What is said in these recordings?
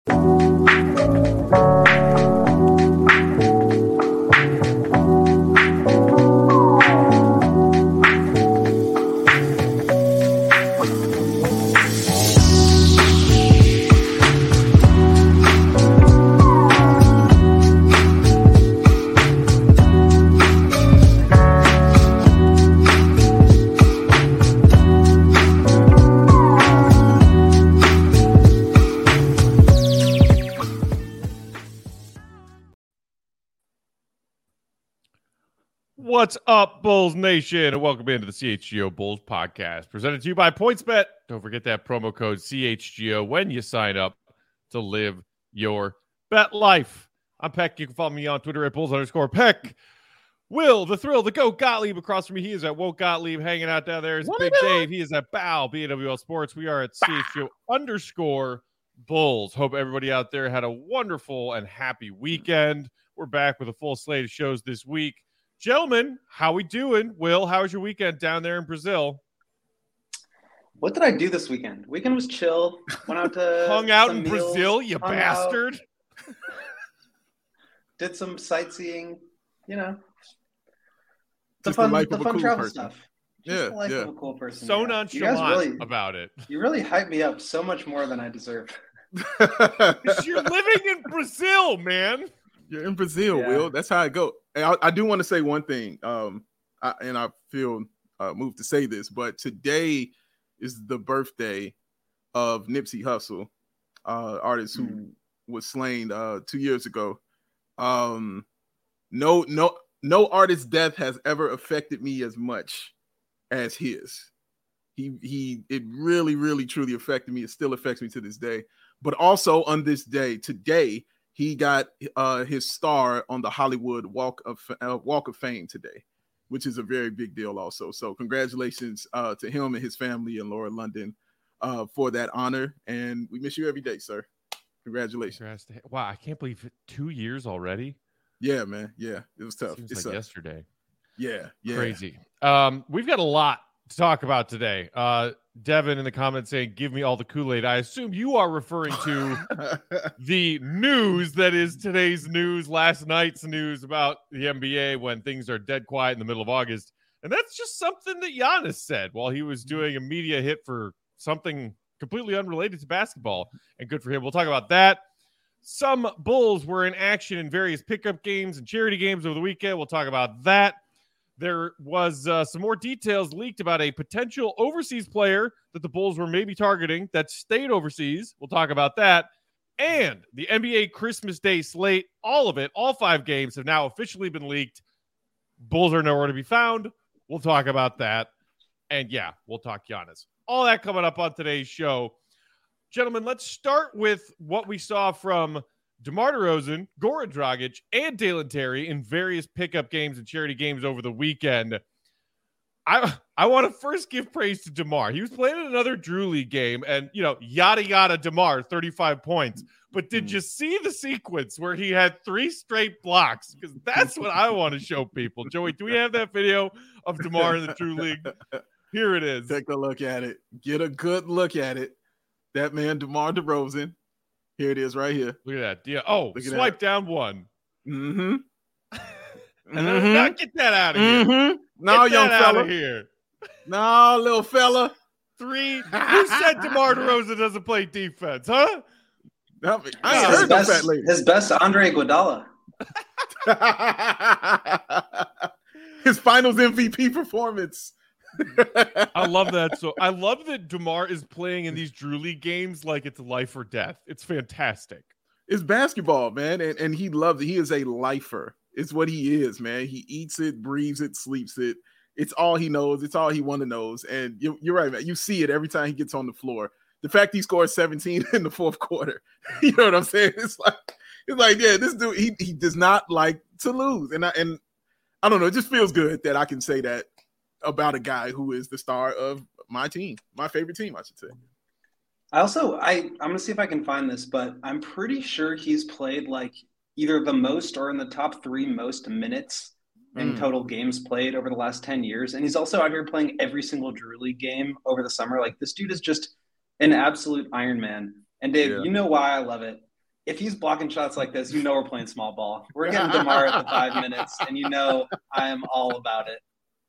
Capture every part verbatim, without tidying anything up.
What's up, Bulls Nation, and welcome into the C H G O Bulls podcast, presented to you by PointsBet. Don't forget that promo code C H G O when you sign up to live your bet life. I'm Peck. You can follow me on Twitter at Bulls underscore Peck. Will, the Thrill, the Goat Gottlieb across from me. He is at Woke Gottlieb, hanging out down there. Is Big Dave. He is at Bow, B A W L Sports. We are at C H G O underscore Bulls. Hope everybody out there had a wonderful and happy weekend. We're back with a full slate of shows this week. Gentlemen, how we doing? Will, how was your weekend down there in Brazil? What did I do this weekend? Weekend was chill. Went out to hung out in meals, Brazil, you bastard. Did some sightseeing, you know. The Just fun, the, life the of a fun cool travel person. stuff. Just Yeah, the life yeah. of a cool person. So yeah. nonchalant really, about it. You really hyped me up so much more than I deserve. You're living in Brazil, man. You're in Brazil, Yeah. Will. That's how it goes. And I, I do want to say one thing, um, I, and I feel uh, moved to say this, but today is the birthday of Nipsey Hussle, uh, artist who mm. was slain uh, two years ago. Um, no, no, no artist's death has ever affected me as much as his. He, he, it really, really, truly affected me. It still affects me to this day. But also on this day, today, he got uh, his star on the Hollywood Walk of uh, Walk of Fame today, which is a very big deal also. So congratulations uh, to him and his family and Laura London uh, for that honor. And we miss you every day, sir. Congratulations. Wow, I can't believe it. Two years already. Yeah, man. Yeah, it was tough. Seems it's like tough. yesterday. Yeah, yeah. Crazy. Um, we've got a lot to talk about today. Uh, Devin in the comments saying, give me all the Kool-Aid. I assume you are referring to the news that is today's news, last night's news about the N B A when things are dead quiet in the middle of August. And that's just something that Giannis said while he was doing a media hit for something completely unrelated to basketball. And good for him. We'll talk about that. Some Bulls were in action in various pickup games and charity games over the weekend. We'll talk about that. There was uh, some more details leaked about a potential overseas player that the Bulls were maybe targeting that stayed overseas. We'll talk about that. And the N B A Christmas Day slate, all of it, all five games have now officially been leaked. Bulls are nowhere to be found. We'll talk about that. And yeah, we'll talk Giannis. All that coming up on today's show. Gentlemen, let's start with what we saw from DeMar DeRozan, Goran Dragic, and Dalen Terry in various pickup games and charity games over the weekend. I I want to first give praise to DeMar. He was playing in another Drew League game, and, you know, yada, yada, DeMar, thirty-five points. But did you see the sequence where he had three straight blocks? Because that's what I want to show people. Joey, do we have that video of DeMar in the Drew League? Here it is. Take a look at it. Get a good look at it. That man, DeMar DeRozan. Here it is right here. Look at that. Yeah. Oh, Look at swipe that. down one. Mm-hmm. And then now get that out of here. Mm-hmm. No, get young that fella. out of here. No, little fella. Three. Who said DeMar DeRozan doesn't play defense, huh? I ain't his, heard no best, fat lady. his best Andre Iguodala. His finals M V P performance. I love that. So I love that DeMar is playing in these Drew League games like it's life or death. It's fantastic. It's basketball, man, and, and he loves it. He is a lifer. It's what he is, man. He eats it, breathes it, sleeps it. It's all he knows. It's all he want to knows. And you, you're right, man. You see it every time he gets on the floor. The fact he scored seventeen in the fourth quarter, you know what I'm saying? It's like, it's like, yeah, this dude, he he does not like to lose, and I and I don't know. It just feels good that I can say that about a guy who is the star of my team, my favorite team, I should say. I also, I, I'm going to see if I can find this, but I'm pretty sure he's played like either the most or in the top three most minutes in mm. total games played over the last ten years. And he's also out here playing every single Drew League game over the summer. Like, this dude is just an absolute Iron Man. And Dave, yeah. you know why I love it. if he's blocking shots like this, you know we're playing small ball. We're getting DeMar at the five minutes, and you know I am all about it.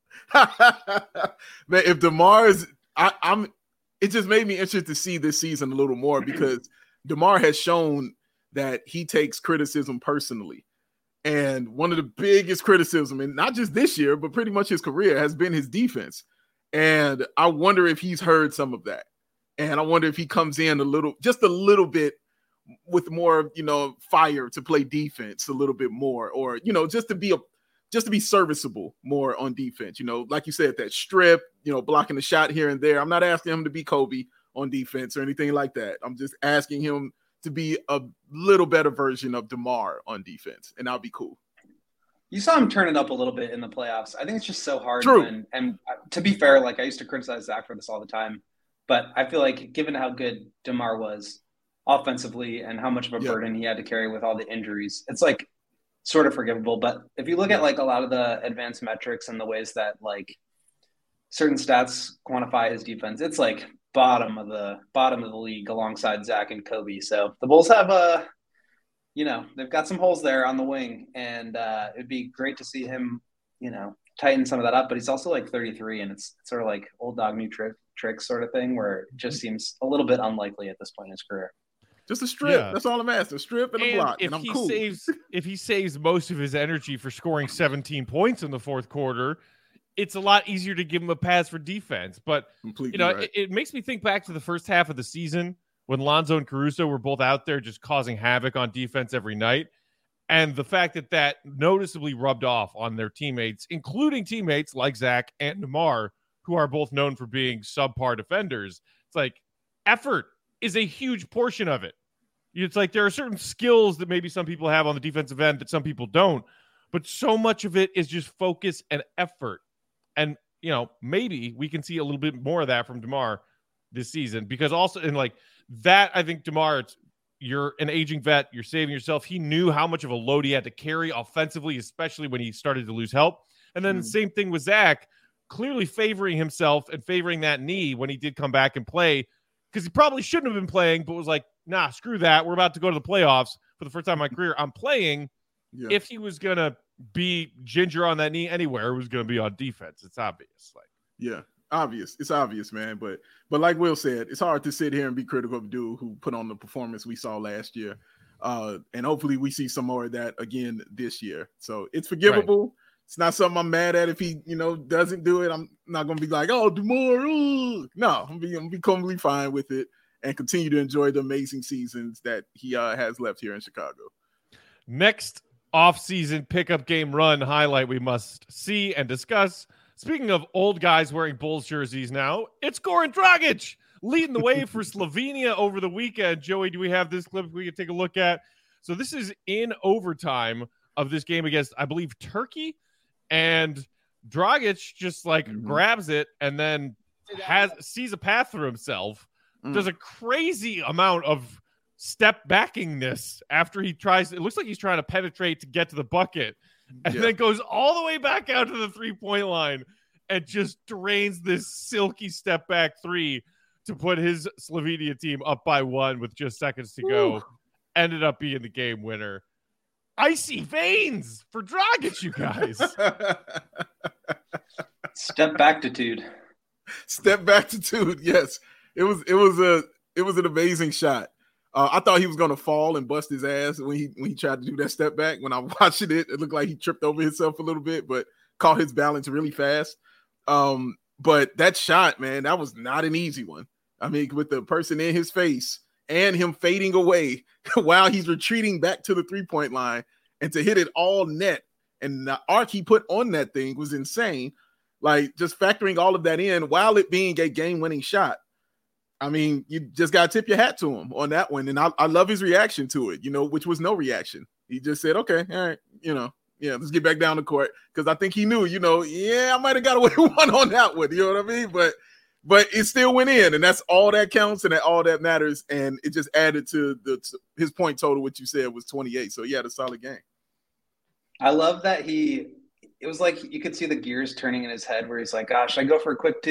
Man, if DeMar is, I, I'm. It just made me interested to see this season a little more because DeMar has shown that he takes criticism personally. And one of the biggest criticism, and not just this year, but pretty much his career, has been his defense. And I wonder if he's heard some of that. And I wonder if he comes in a little, just a little bit with more, you know, fire to play defense a little bit more, or, you know, just to be a, just to be serviceable more on defense. You know, like you said, that strip, you know, blocking the shot here and there. I'm not asking him to be Kobe on defense or anything like that. I'm just asking him to be a little better version of DeMar on defense, and that'll be cool. You saw him turn it up a little bit in the playoffs. I think it's just so hard. True. When, and to be fair, like I used to criticize Zach for this all the time, but I feel like given how good DeMar was offensively and how much of a Yeah. burden he had to carry with all the injuries, it's like sort of forgivable. But if you look at like a lot of the advanced metrics and the ways that like certain stats quantify his defense, it's like bottom of the bottom of the league alongside Zach and Kobe. So the Bulls have a, you know, they've got some holes there on the wing, and uh, it'd be great to see him, you know, tighten some of that up. But he's also like thirty-three, and it's, it's sort of like old dog new trick trick sort of thing, where it just seems a little bit unlikely at this point in his career. Just a strip. Yeah. That's all I'm asking. A strip and, And a block, if and I'm he cool. saves, if he saves most of his energy for scoring seventeen points in the fourth quarter, it's a lot easier to give him a pass for defense. But Completely you know, right. it, it makes me think back to the first half of the season when Lonzo and Caruso were both out there just causing havoc on defense every night. And the fact that that noticeably rubbed off on their teammates, including teammates like Zach and DeMar, who are both known for being subpar defenders. It's like effort is a huge portion of it. It's like there are certain skills that maybe some people have on the defensive end that some people don't, but so much of it is just focus and effort. And, you know, maybe we can see a little bit more of that from DeMar this season, because also in like that, I think DeMar, it's, you're an aging vet, you're saving yourself. He knew how much of a load he had to carry offensively, especially when he started to lose help. And then Mm. the same thing with Zach, clearly favoring himself and favoring that knee when he did come back and play, because he probably shouldn't have been playing, but was like, nah, screw that. We're about to go to the playoffs for the first time in my career. I'm playing. Yeah. If he was going to be ginger on that knee anywhere, it was going to be on defense. It's obvious. Like, Yeah, obvious. It's obvious, man. But but like Will said, it's hard to sit here and be critical of a dude who put on the performance we saw last year. Uh, and hopefully we see some more of that again this year. So it's forgivable. Right. It's not something I'm mad at if he, you know, doesn't do it. I'm not going to be like, oh, DeMar. Ooh. No, I'm going to be completely fine with it and continue to enjoy the amazing seasons that he uh, has left here in Chicago. Next off-season pickup game run highlight we must see and discuss. Speaking of old guys wearing Bulls jerseys now, it's Goran Dragic leading the way for Slovenia over the weekend. Joey, do we have this clip we can take a look at? So this is in overtime of this game against, I believe, Turkey. And Dragic just like mm-hmm. grabs it and then has sees a path for himself. Mm. Does a crazy amount of step backingness after he tries. It looks like he's trying to penetrate to get to the bucket, and yeah. then goes all the way back out to the three-point line and just drains this silky step back three to put his Slovenia team up by one with just seconds to go. Ooh. Ended up being the game winner. Icy veins for Dragic, you guys. Step back-titude. Step back-titude, yes. It was it was a it was an amazing shot. Uh, I thought he was gonna fall and bust his ass when he when he tried to do that step back. When I watched it, it looked like he tripped over himself a little bit, but caught his balance really fast. Um, but that shot, man, that was not an easy one. I mean, with the person in his face and him fading away while he's retreating back to the three-point line, and to hit it all net, and the arc he put on that thing was insane. Like, just factoring all of that in while it being a game-winning shot. I mean, you just got to tip your hat to him on that one. And I, I love his reaction to it, you know, which was no reaction. He just said, okay, all right, you know, yeah, let's get back down the court. Because I think he knew, you know, yeah, I might have got away with one on that one. You know what I mean? But but it still went in, and that's all that counts and that all that matters. And it just added to the to his point total, which you said was twenty-eight. So he had a solid game. I love that he – it was like you could see the gears turning in his head where he's like, gosh, I go for a quick two.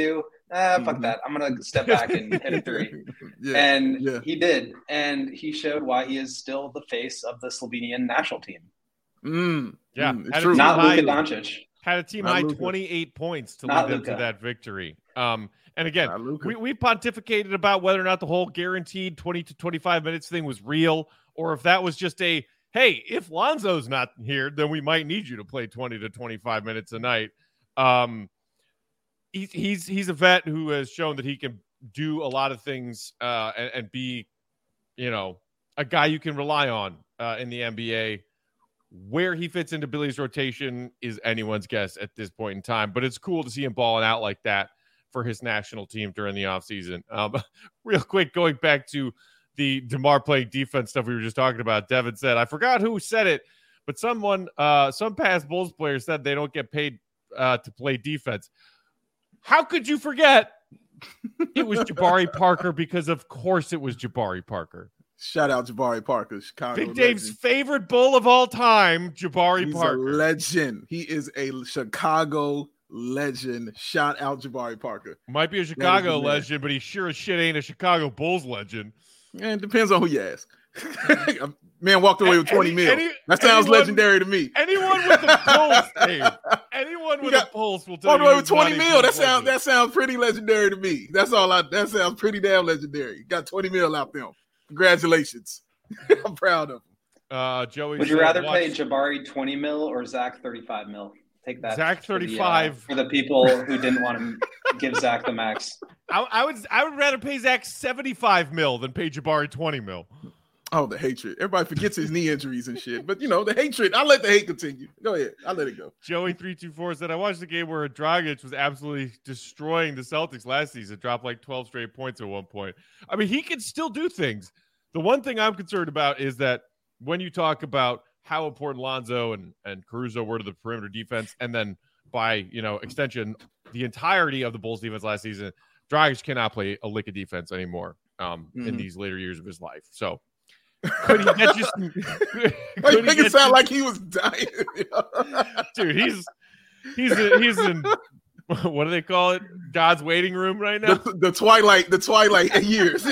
ah, fuck Mhm. that. I'm going to step back and hit a three. Yeah, And yeah. he did. And he showed why he is still the face of the Slovenian national team. Mm, Yeah, mm, it's had a true. team Not high- Luka Doncic. Had a team Not high Luka. twenty-eight points to Not lead them to Luka. that victory. Um, and again, Not Luka. we, we pontificated about whether or not the whole guaranteed twenty to twenty-five minutes thing was real, or if that was just a, hey, if Lonzo's not here, then we might need you to play twenty to twenty-five minutes a night. Um, he's he's he's a vet who has shown that he can do a lot of things uh, and, and be, you know, a guy you can rely on uh, in the N B A. Where he fits into Billy's rotation is anyone's guess at this point in time, but it's cool to see him balling out like that for his national team during the offseason. Um, real quick, going back to the DeMar playing defense stuff we were just talking about, Devin said, I forgot who said it, but someone, uh, some past Bulls players said they don't get paid uh, to play defense. How could you forget? It was Jabari Parker, because of course it was Jabari Parker. Shout out Jabari Parker, Chicago Big Dave's legend. favorite Bull of all time, Jabari He's Parker. a legend. He is a Chicago legend. Shout out Jabari Parker. Might be a the Chicago man. legend, but he sure as shit ain't a Chicago Bulls legend. And it depends on who you ask. Man walked away with twenty Any- mil. any- that sounds anyone- legendary to me. Anyone with a pulse, Dave. Anyone He with got- a pulse will tell Walked you. away with he's not twenty a mil. That Bulls sounds legend. that sounds pretty legendary to me. That's all I that sounds pretty damn legendary. Got twenty mil out them. Congratulations. I'm proud of him. Uh, Joey, Would you said, rather watch pay Jabari twenty mil or Zach thirty-five mil? Take that. Zach for the, uh, thirty-five. for the people who didn't want to give Zach the max. I, I would I would rather pay Zach seventy-five mil than pay Jabari twenty mil. Oh, the hatred. Everybody forgets his knee injuries and shit. But you know, the hatred. I let the hate continue. Go ahead. I let it go. Joey three two four said, I watched the game where Dragic was absolutely destroying the Celtics last season, dropped like twelve straight points at one point. I mean, he can still do things. The one thing I'm concerned about is that when you talk about how important Lonzo and, and Caruso were to the perimeter defense, and then by, you know, extension, the entirety of the Bulls defense last season, Dragic cannot play a lick of defense anymore um, Mhm. in these later years of his life. So could he get you some, could Why you he make it get sound you- like he was dying? dude, he's he's in, he's in what do they call it? God's waiting room right now. the, the twilight, the twilight years.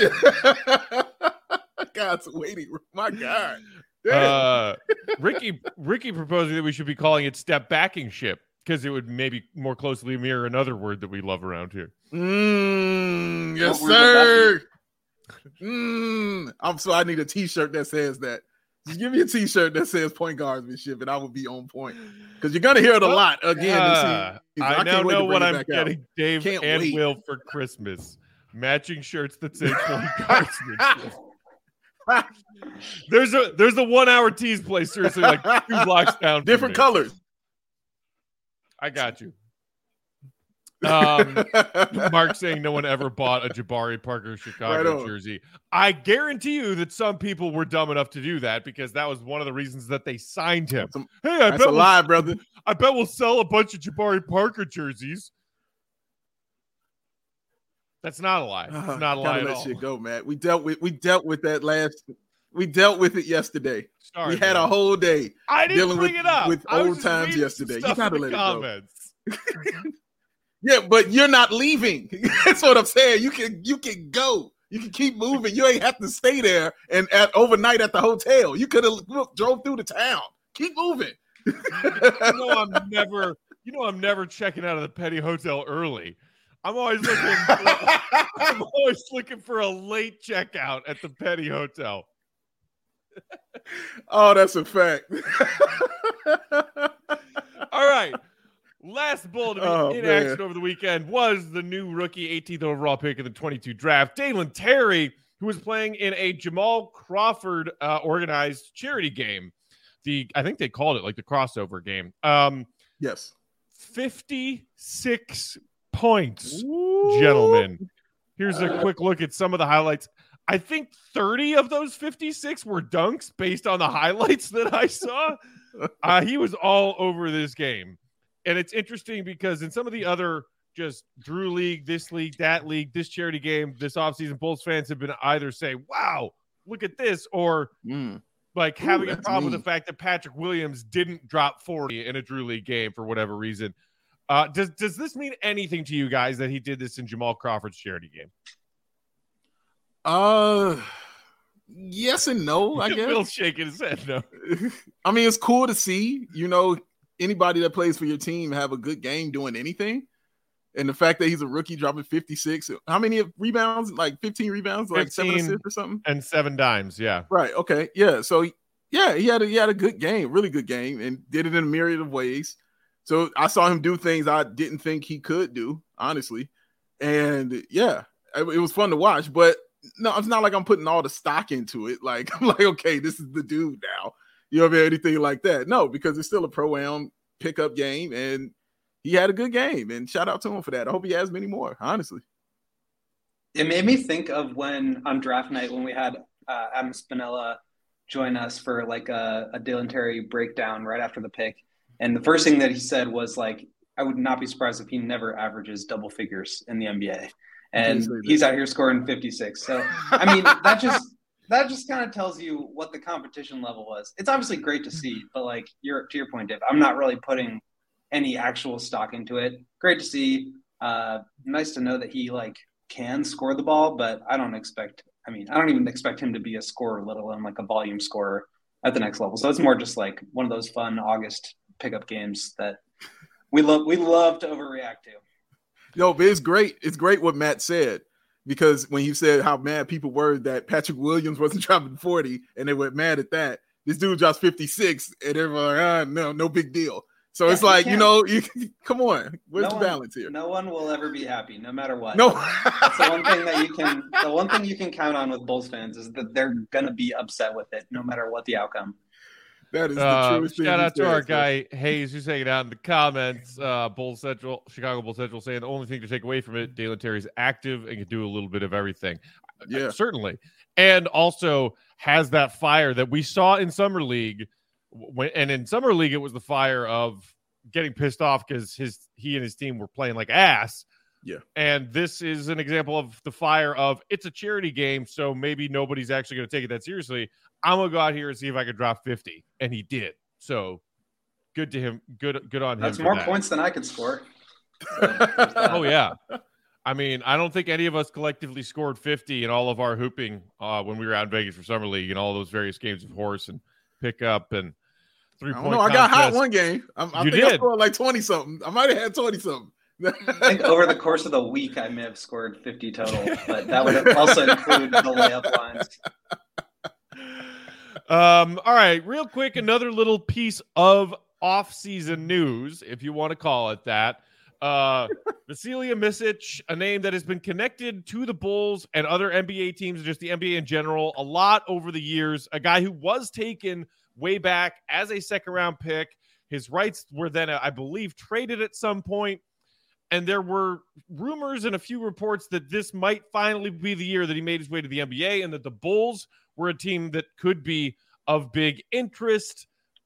God's waiting room. My God. Damn. Uh, Ricky Ricky proposing that we should be calling it step backing ship, because it would maybe more closely mirror another word that we love around here. Mm, yes, What word sir. Mm, I'm so I need a T-shirt that says that. Just give me a T-shirt that says point guardsmanship, and I will be on point. Because you're gonna hear it a Well, lot again. Uh, this season. I, can't now wait to know bring what it I'm back out. getting Dave Can't and wait. Will for Christmas. Matching shirts that say point guardsmanship. There's a there's a one hour tease place seriously like two blocks down. from Different me. colors. I got you. Um, Mark saying no one ever bought a Jabari Parker Right Chicago on. jersey. I guarantee you that some people were dumb enough to do that, because that was one of the reasons that they signed him. That's a, Hey, I that's bet a we'll, lie, brother. I bet we'll sell a bunch of Jabari Parker jerseys. That's not a lie. It's Uh, not a gotta lie at let all. shit go, Matt. We dealt with we dealt with that last. We dealt with it yesterday. Sorry, we had man. a whole day. I didn't dealing bring with- it up with I was old just times reading some yesterday. You stuff gotta in the let it go. comments. Yeah, but you're not leaving. That's what I'm saying. You can you can go. You can keep moving. You ain't have to stay there and at overnight at the hotel. You could have drove through the town. Keep moving. You know I'm never. You know I'm never checking out of the Petty Hotel early. I'm always looking. For, I'm always looking for a late checkout at the Petty Hotel. Oh, that's a fact. All right. Last bull to be Oh, in man. action over the weekend was the new rookie eighteenth overall pick in the twenty-two draft, Dalen Terry, who was playing in a Jamal Crawford uh, organized charity game. The I think they called it like the crossover game. Um, Yes. fifty-six points, gentlemen. Here's a quick look at some of the highlights. I think thirty of those fifty-six were dunks based on the highlights that I saw. Uh, he was all over this game. And it's interesting because in some of the other just Drew League, this league, that league, this charity game, this offseason, Bulls fans have been either say, wow, look at this, or Mm. like Ooh, having a that's problem with mean. the fact that Patrick Williams didn't drop forty in a Drew League game for whatever reason. Uh, does does this mean anything to you guys that he did this in Jamal Crawford's charity game? Uh, yes and no, I guess. Bill's shaking his head no. I mean, it's cool to see, you know, anybody that plays for your team have a good game doing anything. And the fact that he's a rookie dropping fifty-six, how many rebounds? Like fifteen rebounds, like seven assists or something? And seven dimes, yeah. Right, okay, yeah. So, yeah, he had a, he had a good game, really good game, and did it in a myriad of ways. So I saw him do things I didn't think he could do, honestly. And, yeah, it, it was fun to watch. But, no, it's not like I'm putting all the stock into it. Like, I'm like, okay, this is the dude now. You know what I mean? Anything like that. No, because it's still a pro-am pickup game, and he had a good game, and shout out to him for that. I hope he has many more, honestly. It made me think of when on draft night when we had uh, Adam Spinella join us for like a, a Dalen Terry breakdown right after the pick. And the first thing that he said was like, I would not be surprised if he never averages double figures in the N B A. And he's out here scoring fifty-six. So, I mean, that just that just kind of tells you what the competition level was. It's obviously great to see, but like you're to your point, Dave, I'm not really putting any actual stock into it. Great to see. Uh, nice to know that he like can score the ball, but I don't expect, I mean, I don't even expect him to be a scorer, let alone like a volume scorer at the next level. So it's more just like one of those fun August pickup games that we love, we love to overreact to. No, but it's great. It's great what Matt said, because when you said how mad people were that Patrick Williams wasn't dropping forty and they were mad at that, this dude drops fifty-six and everyone like, ah, no, no big deal. So yeah, it's like, you, you know, you, come on. Where's no the balance one, here? No one will ever be happy, no matter what. No. That's the one thing that you can the one thing you can count on with Bulls fans is that they're gonna be upset with it no matter what the outcome. That is the uh, truest thing. Shout out to says, our guy Hayes, who's hanging out in the comments. Uh, Bull Central, Chicago Bull Central, saying the only thing to take away from it, Dalen Terry's active and can do a little bit of everything. Yeah, uh, certainly, and also has that fire that we saw in summer league. When and in summer league, it was the fire of getting pissed off because his he and his team were playing like ass. Yeah, and this is an example of the fire of it's a charity game, so maybe nobody's actually going to take it that seriously. I'm gonna go out here and see if I could drop fifty, and he did. So good to him. Good, good on him. That's more that. points than I could score. So, oh yeah, I mean, I don't think any of us collectively scored fifty in all of our hooping uh, when we were out in Vegas for summer league and all those various games of horse and pickup and three point. I, I got hot one game. I, I you think did. I scored like twenty something. I might have had twenty something. I think over the course of the week, I may have scored fifty total, but that would also include the layup lines. Um, all right, real quick, another little piece of off-season news, if you want to call it that. Uh, Vasilija Micic, a name that has been connected to the Bulls and other N B A teams, and just the N B A in general, a lot over the years. A guy who was taken way back as a second-round pick. His rights were then, I believe, traded at some point. And there were rumors and a few reports that this might finally be the year that he made his way to the N B A and that the Bulls were a team that could be of big interest.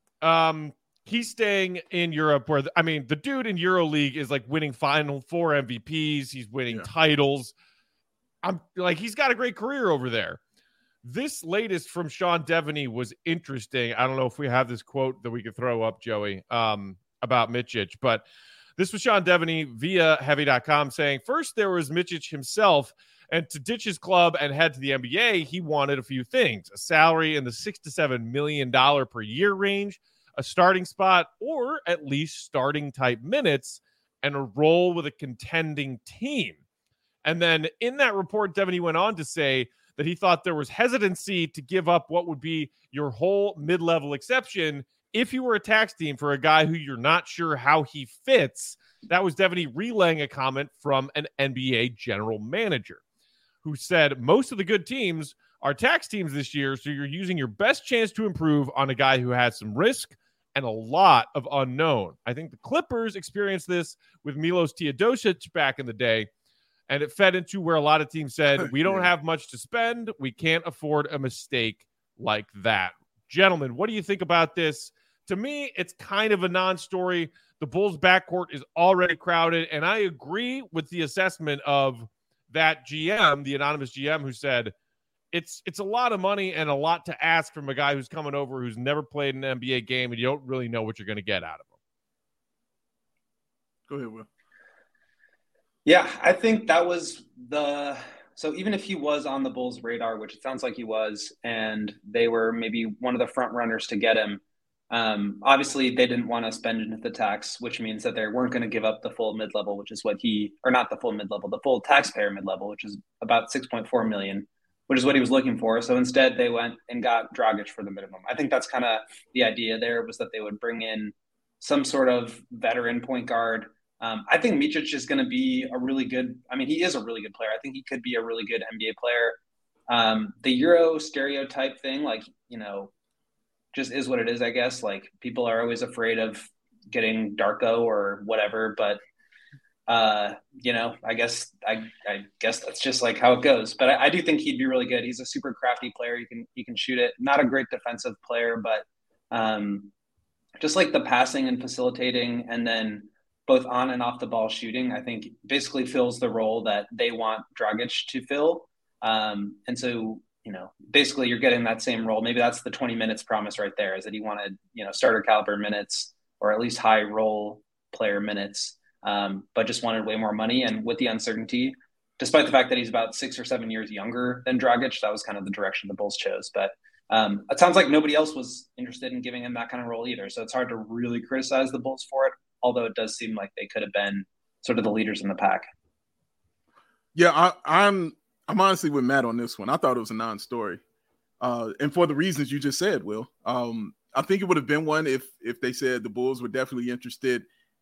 Um, he's staying in Europe where, the, I mean, the dude in EuroLeague is like winning Final Four M V Ps. He's winning yeah. titles. I'm like, he's got a great career over there. This latest from Sean Devaney was interesting. I don't know if we have this quote that we could throw up, Joey, um, about Micic, but this was Sean Devaney via Heavy dot com saying, first there was Micic himself, and to ditch his club and head to the N B A, he wanted a few things: a salary in the six to seven million dollars per year range, a starting spot, or at least starting type minutes, and a role with a contending team. And then in that report, Devaney went on to say that he thought there was hesitancy to give up what would be your whole mid-level exception if you were a tax team for a guy who you're not sure how he fits. That was Devaney relaying a comment from an N B A general manager who said most of the good teams are tax teams this year, so you're using your best chance to improve on a guy who has some risk and a lot of unknown. I think the Clippers experienced this with Milos Teodosic back in the day, and it fed into where a lot of teams said, we don't have much to spend. We can't afford a mistake like that. Gentlemen, what do you think about this? To me, it's kind of a non-story. The Bulls' backcourt is already crowded, and I agree with the assessment of that G M, the anonymous G M, who said it's it's a lot of money and a lot to ask from a guy who's coming over who's never played an N B A game, and you don't really know what you're going to get out of Go ahead, Will. Yeah, I think that was the so even if he was on the Bulls' radar, which it sounds like he was, and they were maybe one of the front runners to get him, um, obviously they didn't want to spend into the tax, which means that they weren't going to give up the full mid level, which is what he or not the full mid level, the full taxpayer mid level, which is about six point four million, which is what he was looking for. So instead, they went and got Dragic for the minimum. I think that's kind of the idea there was that they would bring in some sort of veteran point guard. Um, I think Micic is going to be a really good – I mean, he is a really good player. I think he could be a really good N B A player. Um, the Euro stereotype thing, like, you know, just is what it is, I guess. Like, people are always afraid of getting Darko or whatever. But, uh, you know, I guess I, I guess that's just, like, how it goes. But I, I do think he'd be really good. He's a super crafty player. He can, he can shoot it. Not a great defensive player, but um, just, like, the passing and facilitating and then – both on and off the ball shooting, I think basically fills the role that they want Dragic to fill. Um, and so, you know, basically you're getting that same role. Maybe that's the twenty minutes promise right there, is that he wanted, you know, starter caliber minutes or at least high role player minutes, um, but just wanted way more money. And with the uncertainty, despite the fact that he's about six or seven years younger than Dragic, that was kind of the direction the Bulls chose. But um, it sounds like nobody else was interested in giving him that kind of role either. So it's hard to really criticize the Bulls for it, although it does seem like they could have been sort of the leaders in the pack. Yeah, I, I'm I'm honestly with Matt on this one. I thought it was a non-story. Uh, and for the reasons you just said, Will. Um, I think it would have been one if if they said the Bulls were definitely interested,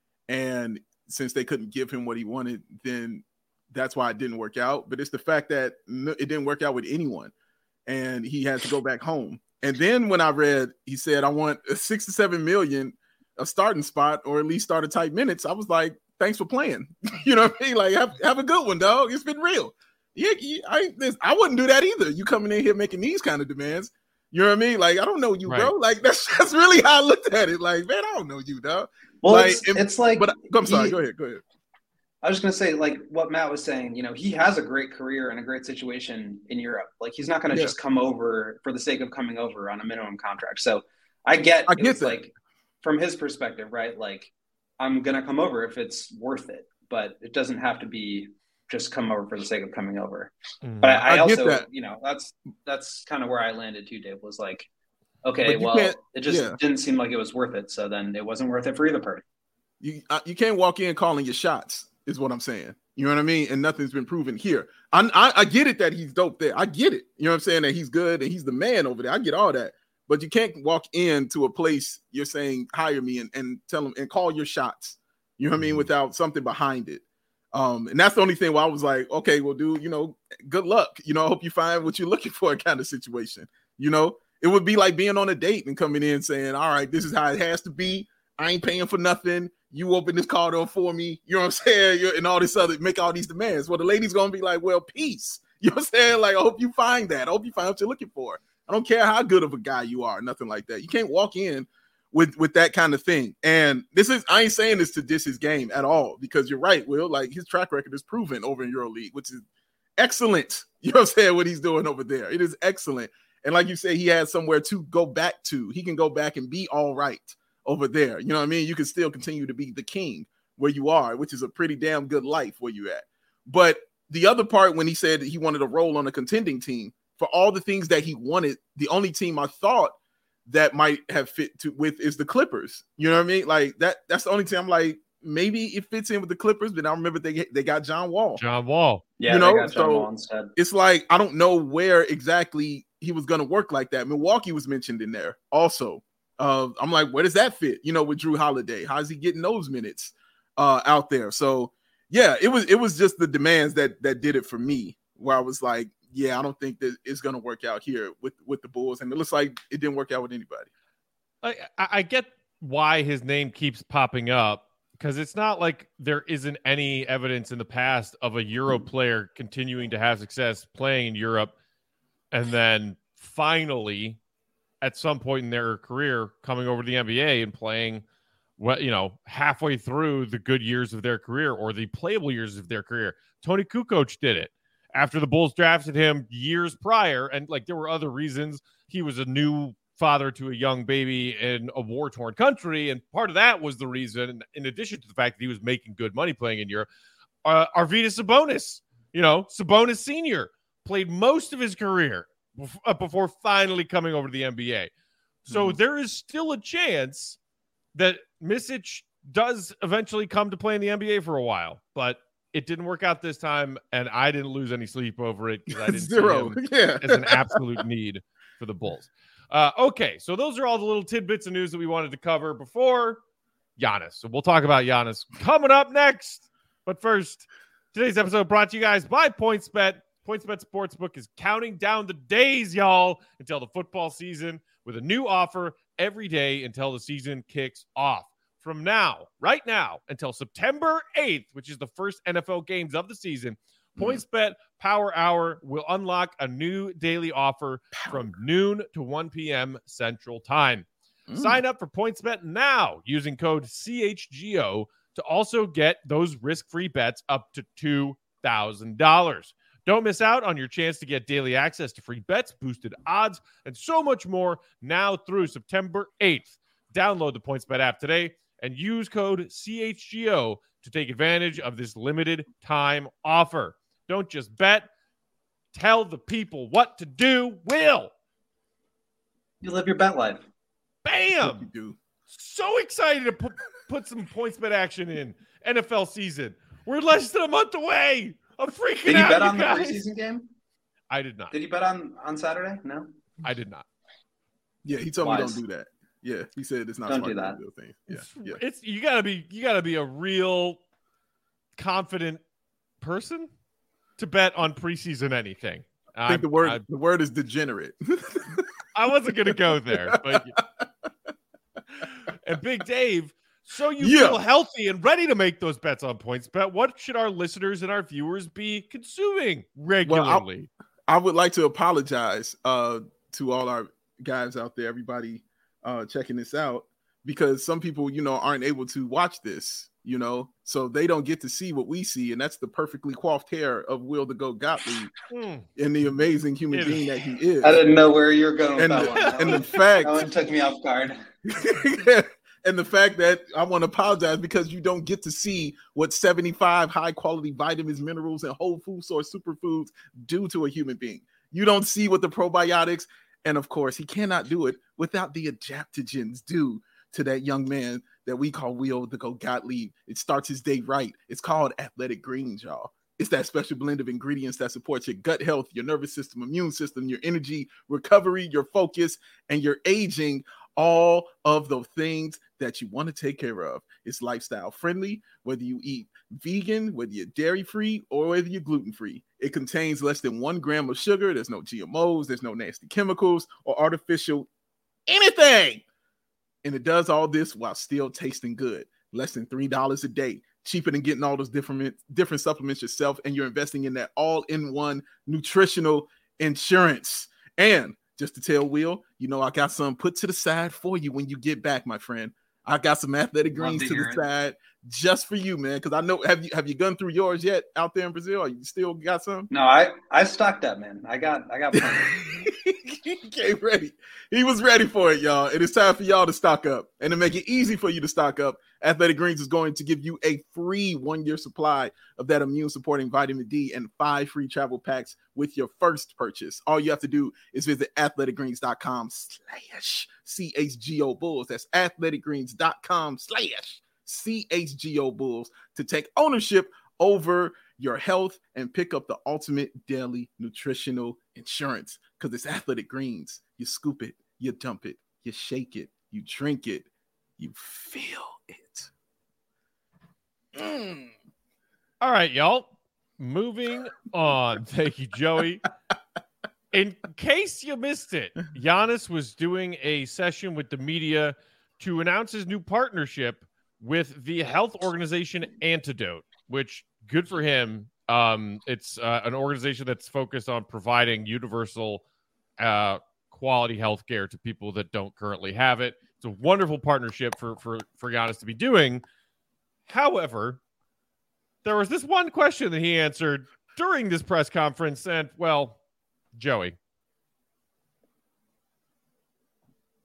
and since they couldn't give him what he wanted, then that's why it didn't work out. But it's the fact that it didn't work out with anyone, and he had to go back home. And then when I read, he said, I want a six to seven million a starting spot, or at least start a tight minutes. I was like, thanks for playing. You know what I mean? Like, have, have a good one, dog. It's been real. Yeah, I I wouldn't do that either. You coming in here making these kind of demands. You know what I mean? Like, I don't know you, right, bro. Like, that's that's really how I looked at it. Like, man, I don't know you, dog. Well, like, it's, it's like, but I'm sorry. He, go ahead. Go ahead. I was just gonna say, like what Matt was saying. You know, he has a great career and a great situation in Europe. Like, he's not gonna yeah. just come over for the sake of coming over on a minimum contract. So, I get. I get that. Like, from his perspective, right? Like, I'm going to come over if it's worth it, but it doesn't have to be just come over for the sake of coming over. Mm. But I, I, I also, that. you know, that's, that's kind of where I landed too, Dave, was like, okay, well, it just yeah. didn't seem like it was worth it. So then it wasn't worth it for either party. You, uh, you can't walk in calling your shots is what I'm saying. You know what I mean? And nothing's been proven here. I, I, I get it that he's dope there. I get it. You know what I'm saying? That he's good and he's the man over there. I get all that. But you can't walk into a place you're saying, hire me and, and tell them and call your shots. You know what I mean? Without something behind it. Um, and that's the only thing where I was like, okay, well, dude, you know, good luck. You know, I hope you find what you're looking for kind of situation. You know, it would be like being on a date and coming in saying, all right, this is how it has to be. I ain't paying for nothing. You open this car door for me. You know what I'm saying? You're, and all this other, make all these demands. Well, the lady's going to be like, well, peace. You know what I'm saying? Like, I hope you find that. I hope you find what you're looking for. I don't care how good of a guy you are, nothing like that. You can't walk in with, with that kind of thing. And this is, I ain't saying this to diss his game at all, because you're right, Will. Like, his track record is proven over in EuroLeague, which is excellent. You know what I'm saying? What he's doing over there. It is excellent. And like you say, he has somewhere to go back to. He can go back and be all right over there. You know what I mean? You can still continue to be the king where you are, which is a pretty damn good life where you at. But the other part, when he said he wanted a role on a contending team, for all the things that he wanted, the only team I thought that might have fit to with is the Clippers. You know what I mean? Like, that that's the only team I'm like, maybe it fits in with the Clippers, but I remember they they got John Wall. John Wall. Yeah, you know, they got John so Wall instead. It's like, I don't know where exactly he was going to work like that. Milwaukee was mentioned in there also. Uh, I'm like, where does that fit? You know, with Drew Holiday, how's he getting those minutes uh, out there? So yeah, it was it was just the demands that that did it for me, where I was like, yeah, I don't think that it's going to work out here with, with the Bulls. And it looks like it didn't work out with anybody. I, I get why his name keeps popping up, because it's not like there isn't any evidence in the past of a Euro player continuing to have success playing in Europe and then finally at some point in their career coming over to the N B A and playing, what, you know, halfway through the good years of their career or the playable years of their career. Tony Kukoc did it after the Bulls drafted him years prior. And like, there were other reasons. He was a new father to a young baby in a war-torn country, and part of that was the reason, in addition to the fact that he was making good money playing in Europe. Uh, Arvydas Sabonis, you know, Sabonis Senior played most of his career bef- before finally coming over to the N B A. So mm-hmm. there is still a chance that Micic does eventually come to play in the N B A for a while, but it didn't work out this time, and I didn't lose any sleep over it because I didn't Zero. see him yeah. as an absolute need for the Bulls. Uh, okay, so those are all the little tidbits of news that we wanted to cover before Giannis. So we'll talk about Giannis coming up next. But first, today's episode brought to you guys by PointsBet. PointsBet Sportsbook is counting down the days, y'all, until the football season with a new offer every day until the season kicks off. From now, right now, until September eighth, which is the first N F L games of the season, mm. PointsBet Power Hour will unlock a new daily offer Power. from noon to one p.m. Central Time. Mm. Sign up for PointsBet now using code C H G O to also get those risk-free bets up to two thousand dollars. Don't miss out on your chance to get daily access to free bets, boosted odds, and so much more now through September eighth. Download the PointsBet app today and use code C H G O to take advantage of this limited time offer. Don't just bet. Tell the people what to do. Will. You live your bet life. Bam! You do. So excited to put, put some PointsBet action in N F L season. We're less than a month away. I'm freaking did out, you bet on guys. the preseason game? I did not. Did you bet on, on Saturday? No? I did not. Yeah, he told Wise. me don't do that. Yeah, he said it's not don't smart do that. to do thing. Yeah, yeah. It's you gotta be you gotta be a real confident person to bet on preseason anything. I think I, the word I, the word is degenerate. I wasn't gonna go there, but and Big Dave, so you yeah. feel healthy and ready to make those bets on PointsBet, what should our listeners and our viewers be consuming regularly? Well, I, I would like to apologize uh, to all our guys out there, everybody uh, checking this out, because some people, you know, aren't able to watch this, you know, so they don't get to see what we see, and that's the perfectly coiffed hair of Will the Goat Gottlieb mm. and the amazing human it being is. that he is. I didn't know where you were going with and that the, one. That and one, the fact that one took me off guard. And the fact that I want to apologize because you don't get to see what seventy-five high quality vitamins, minerals, and whole food source superfoods do to a human being. You don't see what the probiotics, and of course, he cannot do it without the adaptogens do to that young man that we call Will the Goat Gottlieb. It starts his day right. It's called Athletic Greens, y'all. It's that special blend of ingredients that supports your gut health, your nervous system, immune system, your energy, recovery, your focus, and your aging. All of the things that you want to take care of. It's lifestyle friendly, whether you eat vegan, whether you're dairy free, or whether you're gluten free. It contains less than one gram of sugar. There's no G M Os. There's no nasty chemicals or artificial anything. And it does all this while still tasting good. Less than three dollars a day. Cheaper than getting all those different, different supplements yourself. And you're investing in that all-in-one nutritional insurance. And just to tell Will, you know, I got some put to the side for you when you get back, my friend. I got some Athletic Greens to, to the it. side just for you, man. Because I know, have you have you gone through yours yet out there in Brazil? Or you still got some? No, I I stocked up, man. I got I got plenty. He came ready. He was ready for it, y'all. And it's time for y'all to stock up. And to make it easy for you to stock up, Athletic Greens is going to give you a free one-year supply of that immune-supporting vitamin D and five free travel packs with your first purchase. All you have to do is visit athleticgreens.com slash CHGO Bulls. That's athleticgreens.com slash CHGO Bulls to take ownership over your health and pick up the ultimate daily nutritional insurance. Because it's Athletic Greens. You scoop it, you dump it, you shake it, you drink it, you feel it. Mm. All right, y'all. Moving on. Thank you, Joey. In case you missed it, Giannis was doing a session with the media to announce his new partnership with the health organization Antidote, which good for him. Um, it's uh, an organization that's focused on providing universal uh, quality health care to people that don't currently have it. It's a wonderful partnership for, for, for Giannis to be doing. However, there was this one question that he answered during this press conference, and, well, Joey,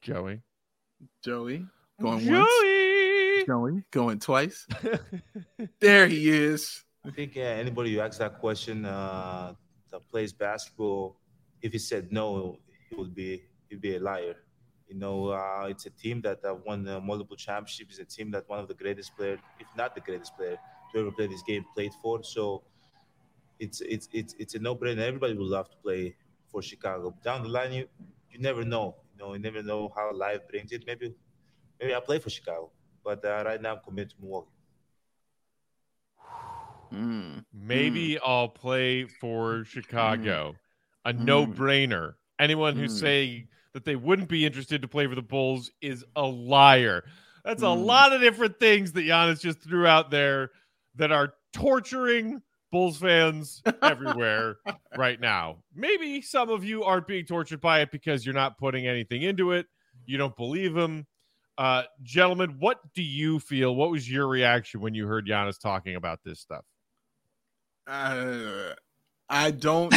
Joey. Joey. Going Joey. once. Joey. Going twice. There he is. I think uh, anybody who asks that question uh, that plays basketball, if he said no, he would be he'd be a liar. You know, uh, it's a team that uh, won uh, multiple championships. It's a team that one of the greatest players, if not the greatest player to ever play this game, played for. So it's it's it's it's a no-brainer. Everybody would love to play for Chicago. Down the line, you you never know. You know, you never know how life brings it. Maybe maybe I'll play for Chicago, but uh, right now I'm committed to Milwaukee. Mm. Maybe mm. I'll play for Chicago. Mm. A no-brainer. Anyone who's Mm. saying that they wouldn't be interested to play for the Bulls is a liar. That's Mm. a lot of different things that Giannis just threw out there that are torturing Bulls fans everywhere right now. Maybe some of you aren't being tortured by it because you're not putting anything into it. You don't believe him. Uh, gentlemen, what do you feel? What was your reaction when you heard Giannis talking about this stuff? Uh, I don't.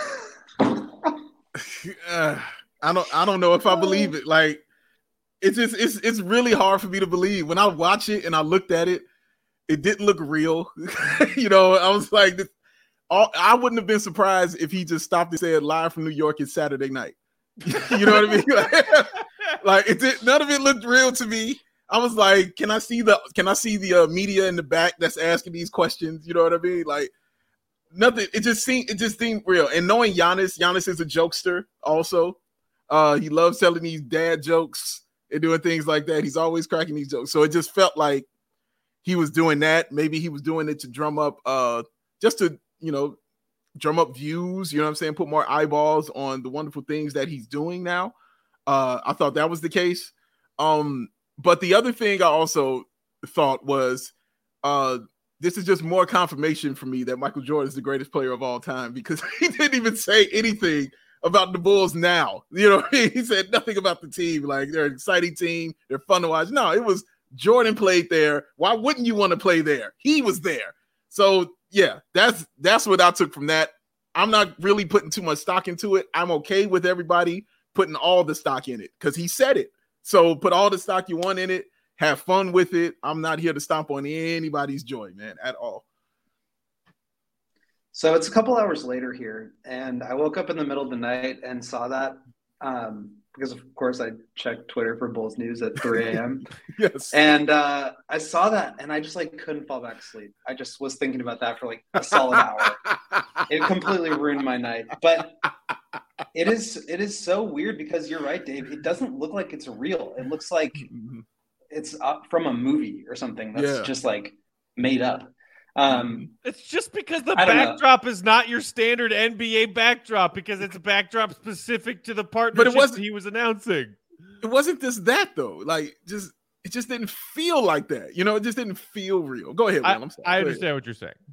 uh, I don't. I don't know if I believe it. Like, it's just. It's. It's really hard for me to believe. When I watch it and I looked at it, it didn't look real. You know, I was like, this, all, I wouldn't have been surprised if he just stopped and said, "Live from New York, it's Saturday night." You know what I mean? Like, like it did. None of it looked real to me. I was like, can I see the? Can I see the uh, media in the back that's asking these questions? You know what I mean? Like. Nothing. It just seemed. It just seemed real. And knowing Giannis, Giannis is a jokester. Also, uh, he loves telling these dad jokes and doing things like that. He's always cracking these jokes. So it just felt like he was doing that. Maybe he was doing it to drum up, uh, just to you know, drum up views. You know what I'm saying? Put more eyeballs on the wonderful things that he's doing now. Uh, I thought that was the case. Um, but the other thing I also thought was, uh. This is just more confirmation for me that Michael Jordan is the greatest player of all time because he didn't even say anything about the Bulls now. You know, he said nothing about the team. Like, they're an exciting team. They're fun to watch. No, it was Jordan played there. Why wouldn't you want to play there? He was there. So, yeah, that's that's what I took from that. I'm not really putting too much stock into it. I'm okay with everybody putting all the stock in it because he said it. So put all the stock you want in it. Have fun with it. I'm not here to stomp on anybody's joy, man, at all. So it's a couple hours later here, and I woke up in the middle of the night and saw that um, because, of course, I checked Twitter for Bulls news at three a.m. Yes. And uh, I saw that, and I just, like, couldn't fall back to sleep. I just was thinking about that for, like, a solid hour. It completely ruined my night. But it is it is so weird because you're right, Dave. It doesn't look like it's real. It looks like it's up from a movie or something that's Yeah. just like made up. Um, It's just because the I don't know. backdrop is not your standard N B A backdrop because it's a backdrop specific to the partnership wasn't- he was announcing. It wasn't just that though. Like, just it just didn't feel like that. You know, it just didn't feel real. Go ahead, I, Will. I'm sorry. I Go understand ahead. what you're saying.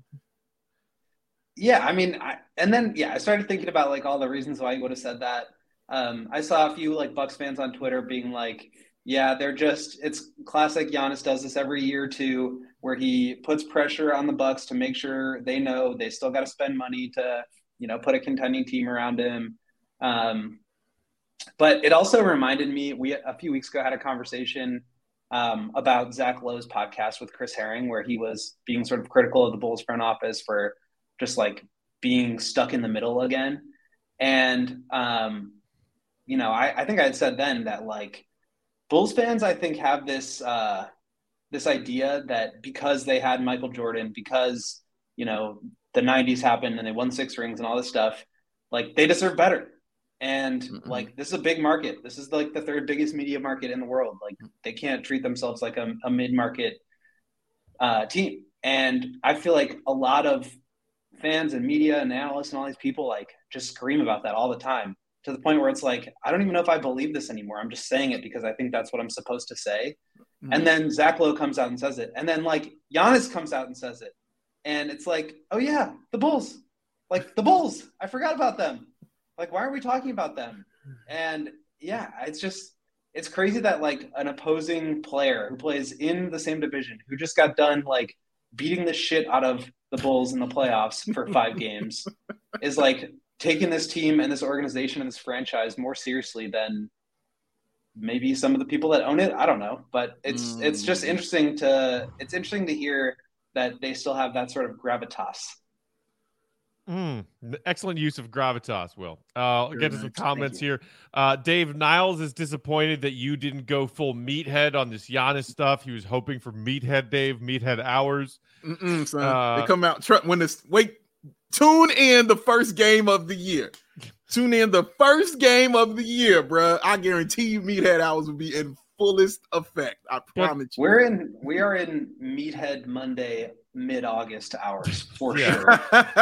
yeah, I mean, I, and then, yeah, I started thinking about like all the reasons why he would have said that. Um, I saw a few like Bucks fans on Twitter being like, yeah, they're just, it's classic. Giannis does this every year too, where he puts pressure on the Bucks to make sure they know they still got to spend money to, you know, put a contending team around him. Um, but it also reminded me, we, a few weeks ago had a conversation um, about Zach Lowe's podcast with Chris Herring, where he was being sort of critical of the Bulls front office for just like being stuck in the middle again. And, um, you know, I, I think I had said then that like, Bulls fans, I think, have this uh, this idea that because they had Michael Jordan, because, you know, the nineties happened and they won six rings and all this stuff, like they deserve better. And Mm-mm. like, this is a big market. This is like the third biggest media market in the world. Like they can't treat themselves like a, a mid-market uh, team. And I feel like a lot of fans and media and analysts and all these people like just scream about that all the time, to the point where it's like, I don't even know if I believe this anymore. I'm just saying it because I think that's what I'm supposed to say. Mm-hmm. And then Zach Lowe comes out and says it. And then like Giannis comes out and says it. And it's like, oh yeah, the Bulls, like the Bulls, I forgot about them. Like, why are we talking about them? And yeah, it's just, it's crazy that like an opposing player who plays in the same division, who just got done like beating the shit out of the Bulls in the playoffs for five games, is like taking this team and this organization and this franchise more seriously than maybe some of the people that own it. I don't know, but it's mm. it's just interesting to it's interesting to hear that they still have that sort of gravitas. Mm, excellent use of gravitas, Will. Uh, I'll get to some comments here. Uh, Dave Niles is disappointed that you didn't go full meathead on this Giannis stuff. He was hoping for meathead Dave, meathead hours. Mm-mm, son. Uh, they come out tr- when this wait. Tune in the first game of the year. Tune in the first game of the year, bro. I guarantee you, meathead hours will be in fullest effect. I promise you. We're in. We are in Meathead Monday mid-August hours for yeah. sure.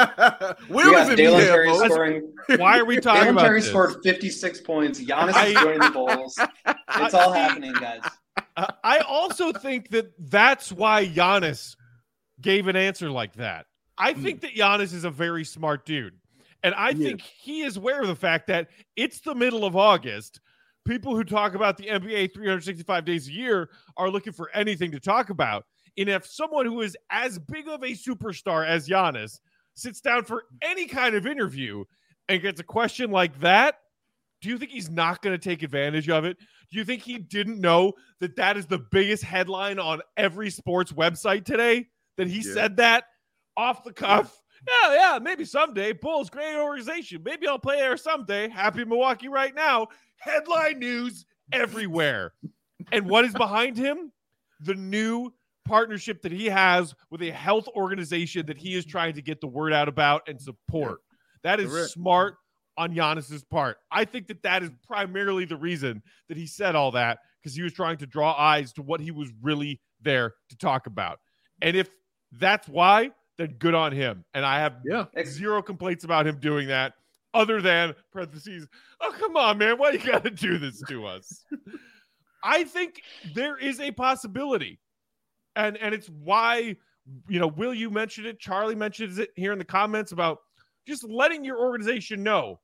Where was it? Dalen Terry scoring. Why are we talking Dalen about Terry this? scored fifty-six points. Giannis I, is joining the Bulls. It's all happening, guys. I also think that that's why Giannis gave an answer like that. I think that Giannis is a very smart dude. And I yeah. think he is aware of the fact that it's the middle of August. People who talk about the N B A three hundred sixty-five days a year are looking for anything to talk about. And if someone who is as big of a superstar as Giannis sits down for any kind of interview and gets a question like that, do you think he's not going to take advantage of it? Do you think he didn't know that that is the biggest headline on every sports website today? That he yeah. said that off the cuff? Yeah, yeah, maybe someday. Bulls, great organization. Maybe I'll play there someday. Happy Milwaukee right now. Headline news everywhere. And what is behind him? The new partnership that he has with a health organization that he is trying to get the word out about and support. That is Correct. smart on Giannis's part. I think that that is primarily the reason that he said all that, because he was trying to draw eyes to what he was really there to talk about. And if that's why, then good on him. And I have yeah. zero complaints about him doing that, other than parentheses, oh, come on, man, why you got to do this to us? I think there is a possibility. And and it's why, you know, Will, you mentioned it, Charlie mentions it here in the comments about just letting your organization know,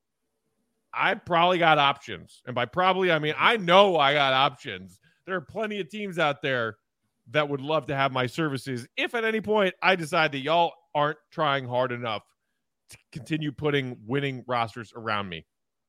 I probably got options. And by probably, I mean, I know I got options. There are plenty of teams out there that would love to have my services if at any point I decide that y'all aren't trying hard enough to continue putting winning rosters around me.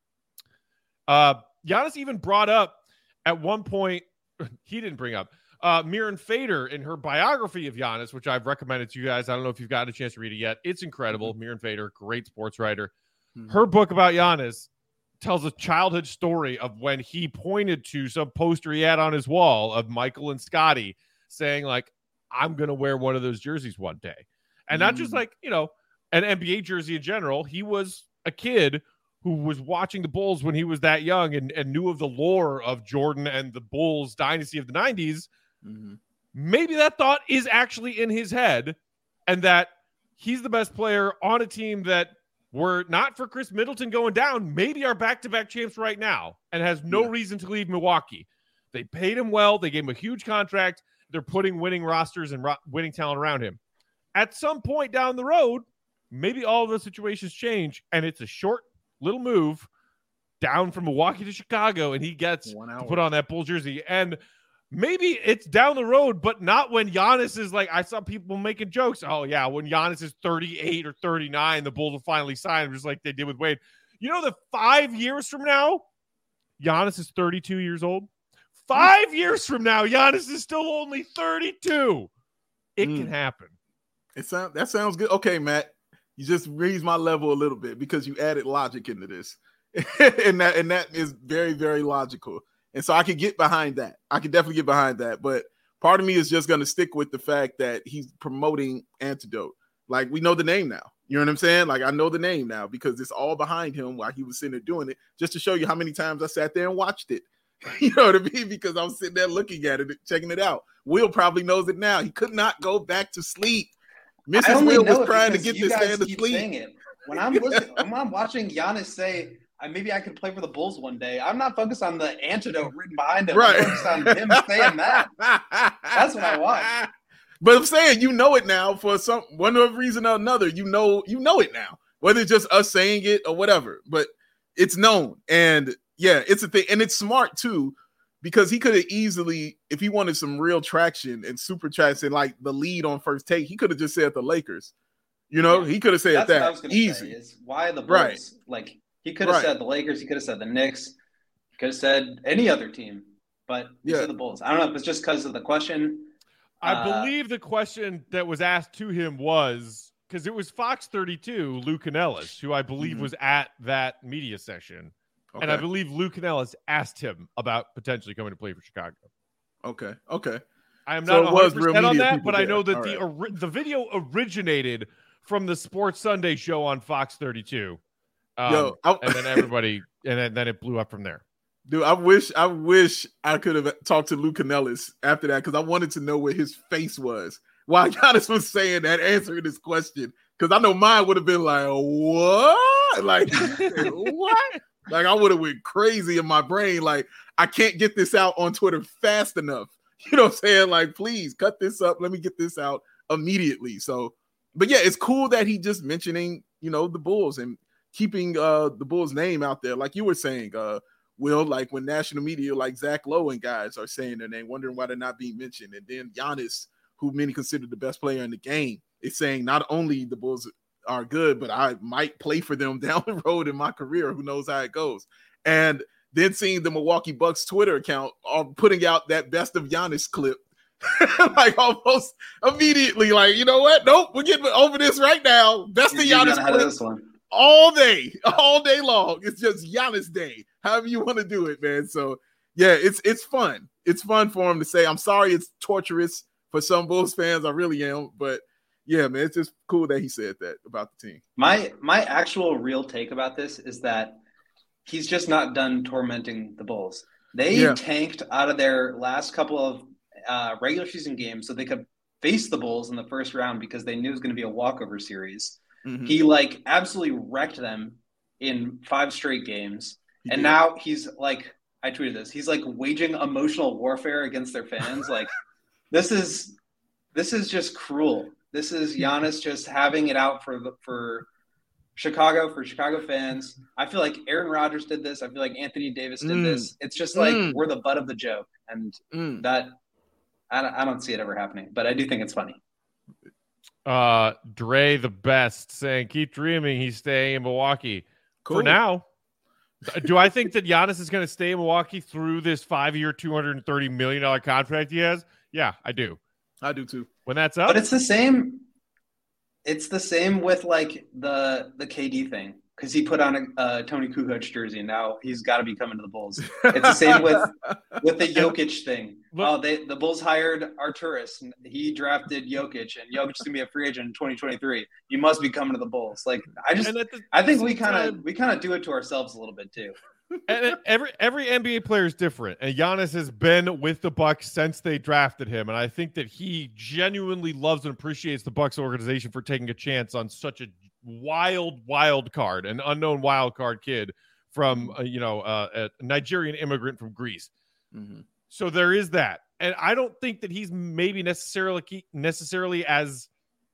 Uh, Giannis even brought up at one point, he didn't bring up, uh, Miran Fader in her biography of Giannis, which I've recommended to you guys. I don't know if you've gotten a chance to read it yet. It's incredible. Mm-hmm. Miran Fader, great sports writer. Mm-hmm. Her book about Giannis tells a childhood story of when he pointed to some poster he had on his wall of Michael and Scotty saying, like, I'm going to wear one of those jerseys one day. And mm. not just like, you know, an N B A jersey in general. He was a kid who was watching the Bulls when he was that young and, and knew of the lore of Jordan and the Bulls dynasty of the nineties. Mm-hmm. Maybe that thought is actually in his head, and that he's the best player on a team that were not for Chris Middleton going down, maybe are back-to-back champs right now and has no yeah. reason to leave Milwaukee. They paid him well. They gave him a huge contract. They're putting winning rosters and ro- winning talent around him. At some point down the road, maybe all of those situations change, and it's a short little move down from Milwaukee to Chicago, and he gets to put on that Bulls jersey. And maybe it's down the road, but not when Giannis is like, I saw people making jokes. Oh, yeah, when Giannis is thirty-eight or thirty-nine, the Bulls will finally sign him, just like they did with Wade. You know that five years from now, Giannis is thirty-two years old? Five years from now, Giannis is still only thirty-two. It mm. can happen. It sound, that sounds good. Okay, Matt, you just raised my level a little bit because you added logic into this. and that and that is very, very logical. And so I could get behind that. I could definitely get behind that. But part of me is just going to stick with the fact that he's promoting Antidote. Like, we know the name now. You know what I'm saying? Like, I know the name now because it's all behind him while he was sitting there doing it, just to show you how many times I sat there and watched it. You know what I mean? Because I was sitting there looking at it, checking it out. Will probably knows it now. He could not go back to sleep. Missus Will was trying to get this man to sleep. It. When I'm listening, when I'm watching Giannis say, maybe I could play for the Bulls one day, I'm not focused on the antidote written behind him. Right. I'm focused on him saying that. That's what I want. But I'm saying, you know it now for some one reason or another. You know, you know it now, whether it's just us saying it or whatever. But it's known, and yeah, it's a thing, and it's smart too, because he could have easily, if he wanted some real traction and super traction, like the lead on First Take, he could have just said the Lakers. You know, yeah. he could have said That's that what I was gonna easy. Say, is why the Bulls? Right. Like, he could have right. said the Lakers. He could have said the Knicks. Could have said any other team, but he Yeah. said the Bulls. I don't know if it's just because of the question. I Uh, believe the question that was asked to him was because it was Fox thirty-two, Lou Canellis, who I believe Mhm. was at that media session. Okay. And I believe Lou Canellis asked him about potentially coming to play for Chicago. Okay. Okay. I am So not it was one hundred percent real on media that, people but I there. know that All the right. ori- the video originated from the Sports Sunday show on Fox thirty-two. Um, Yo, I- and then everybody, and then, then it blew up from there. Dude, I wish I wish I could have talked to Lou Canellis after that because I wanted to know where his face was while Giannis was saying that, answering this question. Because I know mine would have been like, what? Like, what? Like, I would have went crazy in my brain. Like, I can't get this out on Twitter fast enough. You know what I'm saying? Like, please cut this up. Let me get this out immediately. So, but yeah, it's cool that he just mentioning, you know, the Bulls and keeping uh the Bulls name out there. Like you were saying, uh, Will, like when national media like Zach Lowe and guys are saying their name, wondering why they're not being mentioned. And then Giannis, who many consider the best player in the game, is saying not only the Bulls are good, but I might play for them down the road in my career. Who knows how it goes? And then seeing the Milwaukee Bucks Twitter account are putting out that best of Giannis clip, like almost immediately, like, you know what? Nope, we're getting over this right now. Best of you're Giannis not ahead of clip this one. all day, all day long. It's just Giannis Day, however you want to do it, man. So yeah, it's it's fun. It's fun for him to say. I'm sorry, it's torturous for some Bulls fans. I really am, but yeah, man, it's just cool that he said that about the team. My my actual real take about this is that he's just not done tormenting the Bulls. They Yeah. tanked out of their last couple of uh, regular season games so they could face the Bulls in the first round because they knew it was going to be a walkover series. Mhm. He like absolutely wrecked them in five straight games. He and did. now he's like, I tweeted this, he's like waging emotional warfare against their fans. Like this is, this is just cruel. This is Giannis just having it out for the, for Chicago, for Chicago fans. I feel like Aaron Rodgers did this. I feel like Anthony Davis did Mm. this. It's just like, Mm. we're the butt of the joke. And Mm. that, I don't, I don't see it ever happening, but I do think it's funny. Uh, Dre the best saying, keep dreaming. He's staying in Milwaukee Cool. for now. Do I think that Giannis is going to stay in Milwaukee through this five-year, two hundred thirty million dollars contract he has? Yeah, I do. I do too. When that's up, But it's the same. It's the same with like the the K D thing because he put on a, a Tony Kukoc jersey and now he's got to be coming to the Bulls. It's the same with with the Jokic thing. Look- Oh, they the Bulls hired Arturas and he drafted Jokic and Jokic is gonna be a free agent in twenty twenty-three. You must be coming to the Bulls. Like I just and at the I think we same kind time- of we kind of do it to ourselves a little bit too. and every every N B A player is different, and Giannis has been with the Bucks since they drafted him, and I think that he genuinely loves and appreciates the Bucks organization for taking a chance on such a wild, wild card, an unknown wild card kid from uh, you know uh, a Nigerian immigrant from Greece. Mhm. So there is that, and I don't think that he's maybe necessarily necessarily as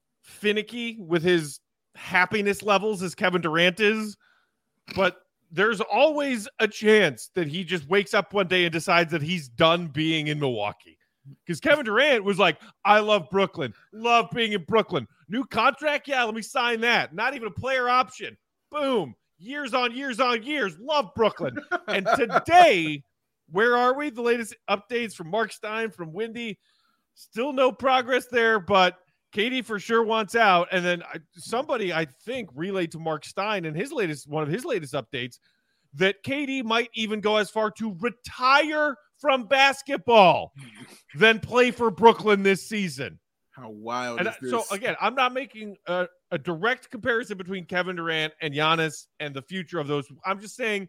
finicky with his happiness levels as Kevin Durant is, but there's always a chance that he just wakes up one day and decides that he's done being in Milwaukee. Because Kevin Durant was like, I love Brooklyn, love being in Brooklyn. New contract? Yeah, let me sign that. Not even a player option. Boom. Years on years on years. Love Brooklyn. And today, where are we? The latest updates from Mark Stein, from Windy. Still no progress there, but K D for sure wants out. And then I, somebody, I think, relayed to Mark Stein in his latest, one of his latest updates, that K D might even go as far to retire from basketball than play for Brooklyn this season. How wild And is I- this? so again, I'm not making a, a direct comparison between Kevin Durant and Giannis and the future of those. I'm just saying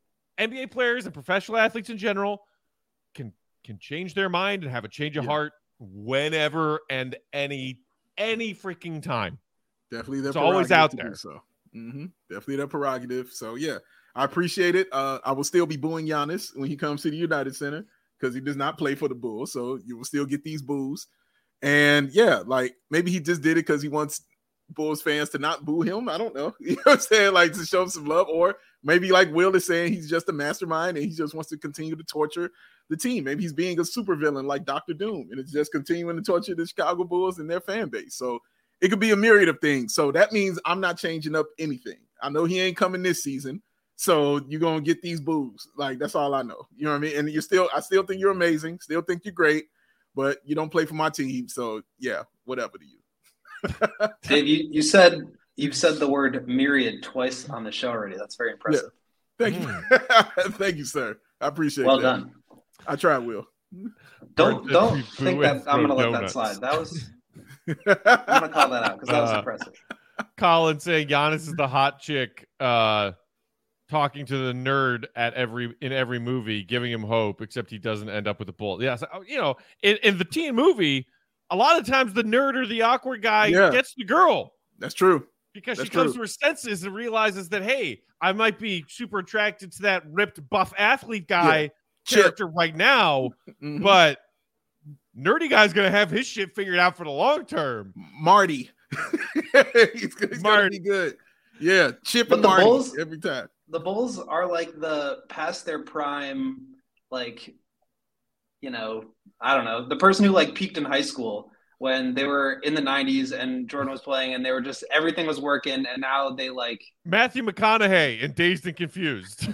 N B A players and professional athletes in general can can change their mind and have a change of Yeah. heart whenever and any any freaking time. Definitely their It's always prerogative out to do there. So hmm definitely their prerogative. So yeah, I appreciate it. Uh, I will still be booing Giannis when he comes to the United Center because he does not play for the Bulls. So you will still get these boos. And yeah, like maybe he just did it because he wants Bulls fans to not boo him. I don't know. You know what I'm saying? Like to show him some love. Or maybe like Will is saying he's just a mastermind and he just wants to continue to torture the team. Maybe he's being a supervillain like Doctor Doom and it's just continuing to torture the Chicago Bulls and their fan base. So it could be a myriad of things. So that means I'm not changing up anything. I know he ain't coming this season. So you're gonna get these boos. Like, that's all I know. You know what I mean? And you still, I still think you're amazing. Still think you're great, but you don't play for my team. So yeah, whatever to you. Dave, you, you said you've said the word myriad twice on the show already. That's very impressive. Yeah. Thank you. Thank you, sir. I appreciate well that. Well done. I try, Will. Don't don't think that I'm gonna let that slide. That was I'm gonna call that out because that was uh, impressive. Colin saying Giannis is the hot chick uh talking to the nerd at every in every movie, giving him hope, except he doesn't end up with the bull. Yeah, so, you know, in, in the teen movie, a lot of times the nerd or the awkward guy yeah. gets the girl. That's true. Because That's she comes true. to her senses and realizes that, hey, I might be super attracted to that ripped buff athlete guy yeah. character Chip. right now, mm-hmm. but nerdy guy's gonna have his shit figured out for the long term. Marty, he's, he's Marty. gonna be good. Yeah, Chip but and the Marty Bulls, every time. The Bulls are like the past their prime, like, you know, I don't know, the person who like peaked in high school when they were in the nineties and Jordan was playing and they were just everything was working, and now they like Matthew McConaughey in Dazed and Confused.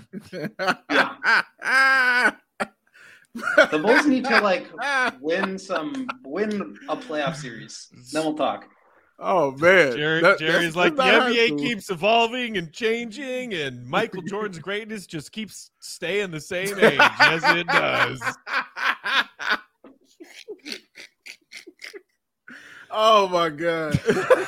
Yeah. The Bulls need to like win some win a playoff series. Then we'll talk. Oh man, Jerry, that, Jerry's like the N B A keeps evolving and changing, and Michael Jordan's greatness just keeps staying the same age. Yes, it does. Oh my god.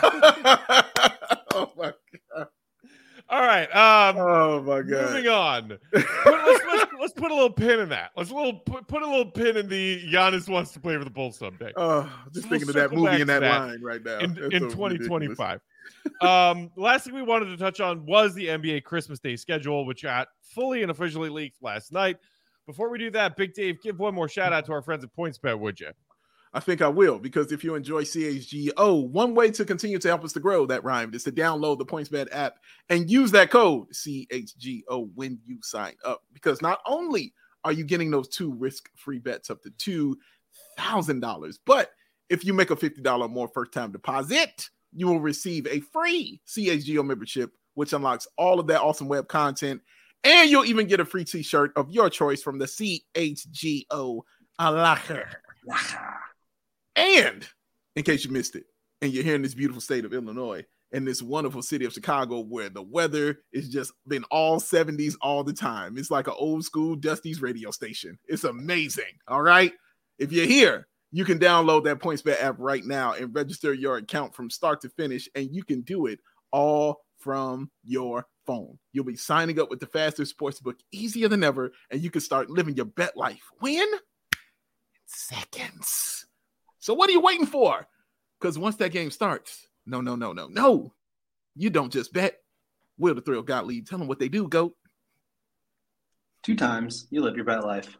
Oh my god. All right. Um, oh my god. Moving on. Put, let's, let's, let's put a little pin in that. Let's a little put, put a little pin in the Giannis wants to play for the Bulls someday. Oh, just so thinking we'll of that movie in that, that line right now in, in so twenty twenty-five. um, last thing we wanted to touch on was the N B A Christmas Day schedule, which got fully and officially leaked last night. Before we do that, Big Dave, give one more shout out to our friends at PointsBet, would you? I think I will, because if you enjoy C H G O, one way to continue to help us to grow, that rhymed, is to download the PointsBet app and use that code C H G O when you sign up. Because not only are you getting those two risk-free bets up to two thousand dollars, but if you make a fifty dollars or more first-time deposit, you will receive a free C H G O membership, which unlocks all of that awesome web content, and you'll even get a free t-shirt of your choice from the C H G O Locker. And in case you missed it, and you're here in this beautiful state of Illinois and this wonderful city of Chicago where the weather is just been all seventies all the time. It's like an old school Dusty's radio station. It's amazing. All right. If you're here, you can download that PointsBet app right now and register your account from start to finish. And you can do it all from your phone. You'll be signing up with the fastest sportsbook easier than ever. And you can start living your bet life. When? In seconds. So what are you waiting for? Because once that game starts, no, no, no, no, no. You don't just bet. Will the Thrill Gottlieb, tell them what they do, GOAT. Two times, you live your bet life.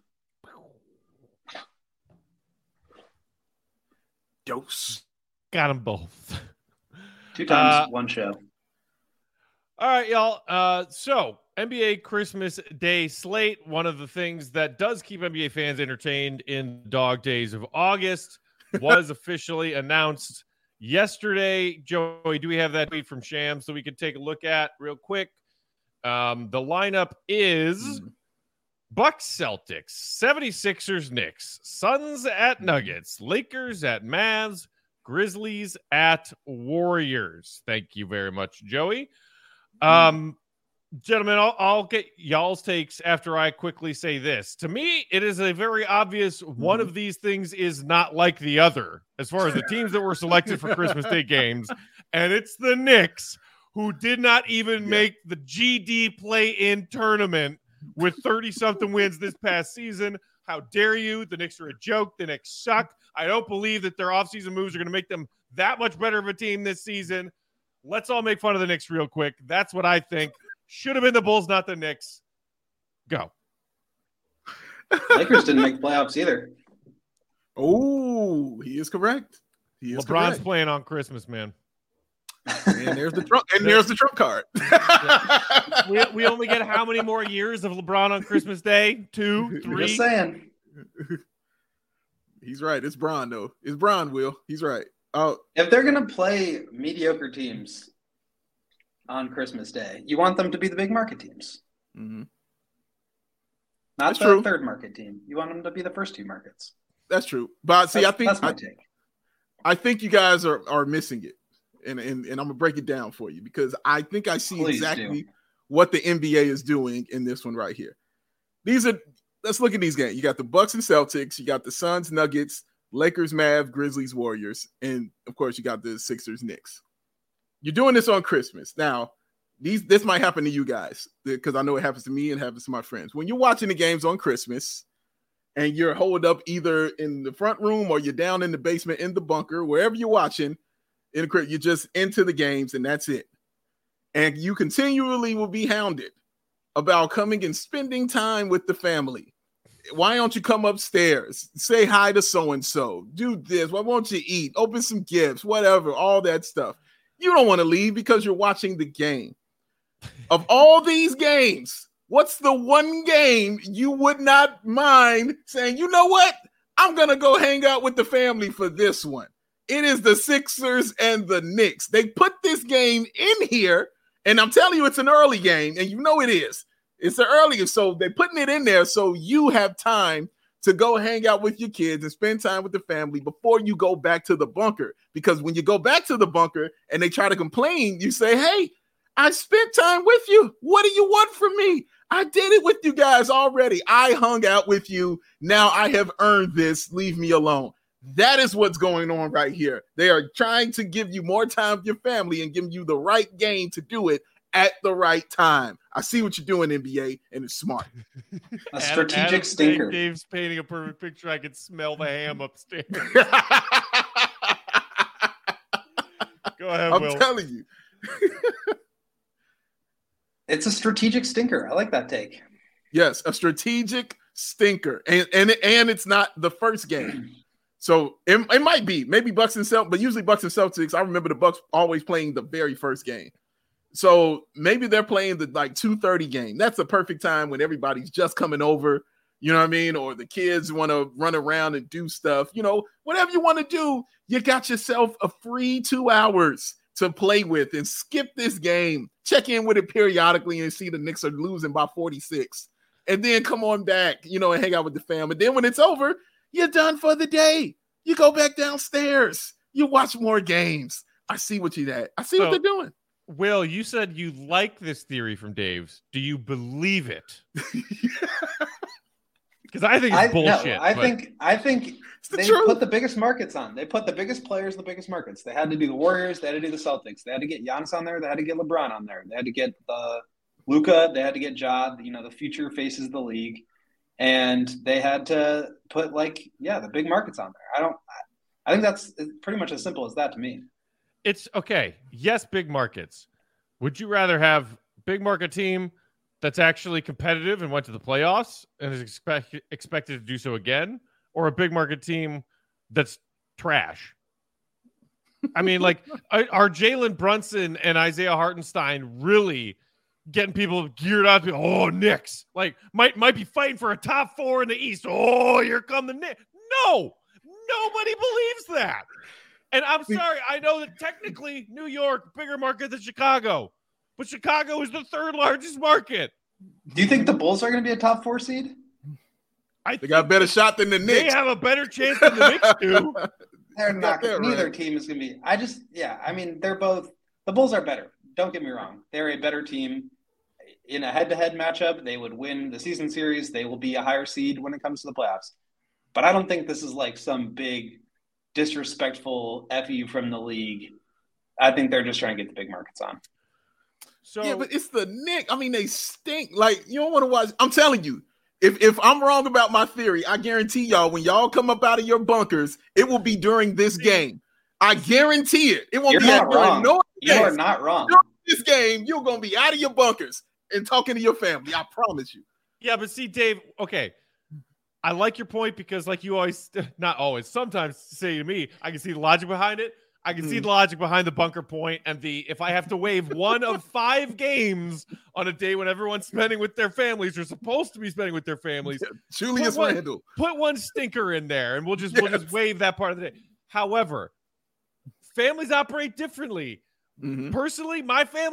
Dose. Got them both. Two times, uh, one show. All right, y'all. Uh, so N B A Christmas Day slate, one of the things that does keep N B A fans entertained in the dog days of August, was officially announced yesterday. Joey, do we have that tweet from Sham so we can take a look at real quick? Um, the lineup is mm. Bucks Celtics, seventy-sixers Knicks, Suns at Nuggets, Lakers at Mavs, Grizzlies at Warriors. Thank you very much, Joey. Um, Gentlemen, I'll, I'll get y'all's takes after I quickly say this. To me, it is a very obvious one of these things is not like the other as far as the teams that were selected for Christmas Day games, and it's the Knicks, who did not even yeah. make the G D play-in tournament with thirty-something wins this past season. How dare you? The Knicks are a joke. The Knicks suck. I don't believe that their offseason moves are going to make them that much better of a team this season. Let's all make fun of the Knicks real quick. That's what I think. Should have been the Bulls, not the Knicks. Go. Lakers didn't make playoffs either. Oh, he is correct. He is LeBron's correct. playing on Christmas, man. And there's the trump. And there's the trump card. we, we only get how many more years of LeBron on Christmas Day? Two, three. Just saying. He's right. It's Bron though. It's Bron. Will. He's right. Oh, if they're gonna play mediocre teams on Christmas Day, you want them to be the big market teams. Mm-hmm. Not That's the true. third market team. You want them to be the first two markets. That's true. But see, that's, I think that's my I, take. I think you guys are are missing it, and and, and I'm gonna break it down for you because I think I see Please exactly do. what the N B A is doing in this one right here. These are let's look at these games. You got the Bucks and Celtics. You got the Suns, Nuggets, Lakers, Mavs, Grizzlies, Warriors, and of course you got the Sixers, Knicks. You're doing this on Christmas now. These this might happen to you guys because I know it happens to me and happens to my friends. When you're watching the games on Christmas and you're holed up either in the front room or you're down in the basement in the bunker, wherever you're watching, in the, you're just into the games and that's it. And you continually will be hounded about coming and spending time with the family. Why don't you come upstairs? Say hi to so-and-so. Do this. Why won't you eat? Open some gifts, whatever, all that stuff. You don't want to leave because you're watching the game. Of all these games, what's the one game you would not mind saying, you know what? I'm going to go hang out with the family for this one. It is the Sixers and the Knicks. They put this game in here, and I'm telling you it's an early game, and you know it is. It's the earliest, so they're putting it in there so you have time to go hang out with your kids and spend time with the family before you go back to the bunker. Because when you go back to the bunker and they try to complain, you say, hey, I spent time with you. What do you want from me? I did it with you guys already. I hung out with you. Now I have earned this. Leave me alone. That is what's going on right here. They are trying to give you more time with your family and giving you the right game to do it at the right time. I see what you're doing, N B A, and it's smart. A strategic Adam stinker. Dave's painting a perfect picture. I can smell the ham upstairs. Go ahead, I'm Will. telling you. It's a strategic stinker. I like that take. Yes, a strategic stinker. And and, and it's not the first game. So it, it might be. Maybe Bucks and Celtics, but usually Bucks and Celtics, I remember the Bucks always playing the very first game. So maybe they're playing the like two thirty game. That's the perfect time when everybody's just coming over, you know what I mean? Or the kids want to run around and do stuff. You know, whatever you want to do, you got yourself a free two hours to play with and skip this game. Check in with it periodically and see the Knicks are losing by forty-six. And then come on back, you know, and hang out with the family. Then when it's over, you're done for the day. You go back downstairs. You watch more games. I see what you did. I see So, what they're doing. Will, you said you like this theory from Dave's. Do you believe it? Because I think it's I, bullshit. No, I but- think I think the they truth. put the biggest markets on. They put the biggest players in the biggest markets. They had to do the Warriors. They had to do the Celtics. They had to get Giannis on there. They had to get LeBron on there. They had to get the Luka. They had to get Ja. You know, the future faces of the league, and they had to put like yeah the big markets on there. I don't. I think that's pretty much as simple as that to me. It's okay. Yes, big markets. Would you rather have big market team that's actually competitive and went to the playoffs and is expect, expected to do so again, or a big market team that's trash? I mean, like, are Jalen Brunson and Isaiah Hartenstein really getting people geared up? To, oh, Knicks, like, might might be fighting for a top four in the East. Oh, here come the Knicks. No, nobody believes that. And I'm sorry, I know that technically New York, bigger market than Chicago, but Chicago is the third largest market. Do you think the Bulls are going to be a top four seed? I They got a better shot than the They Knicks. have a better chance than the Knicks do. They're not. that Neither right. team is going to be. I just, yeah. I mean, they're both. The Bulls are better. Don't get me wrong. They're a better team in a head-to-head matchup. They would win the season series. They will be a higher seed when it comes to the playoffs. But I don't think this is like some big disrespectful F you from the league. I think they're just trying to get the big markets on. So Yeah, but it's the Knicks. I mean, they stink. Like, you don't want to watch. I'm telling you, if if I'm wrong about my theory, I guarantee y'all, when y'all come up out of your bunkers, it will be during this game. I guarantee it. It won't You're be not at during wrong. no You are games. not wrong. During this game, you're gonna be out of your bunkers and talking to your family. I promise you. yeah, but see, Dave, okay. I like your point because, like you always, not always, sometimes say to me, I can see the logic behind it. I can mm. see the logic behind the bunker point and the if I have to waive one of five games on a day when everyone's spending with their families or supposed to be spending with their families. Yeah, Julius put one, Randle. Put one stinker in there and we'll just yes. we'll just waive that part of the day. However, families operate differently. Mm-hmm. Personally, my family,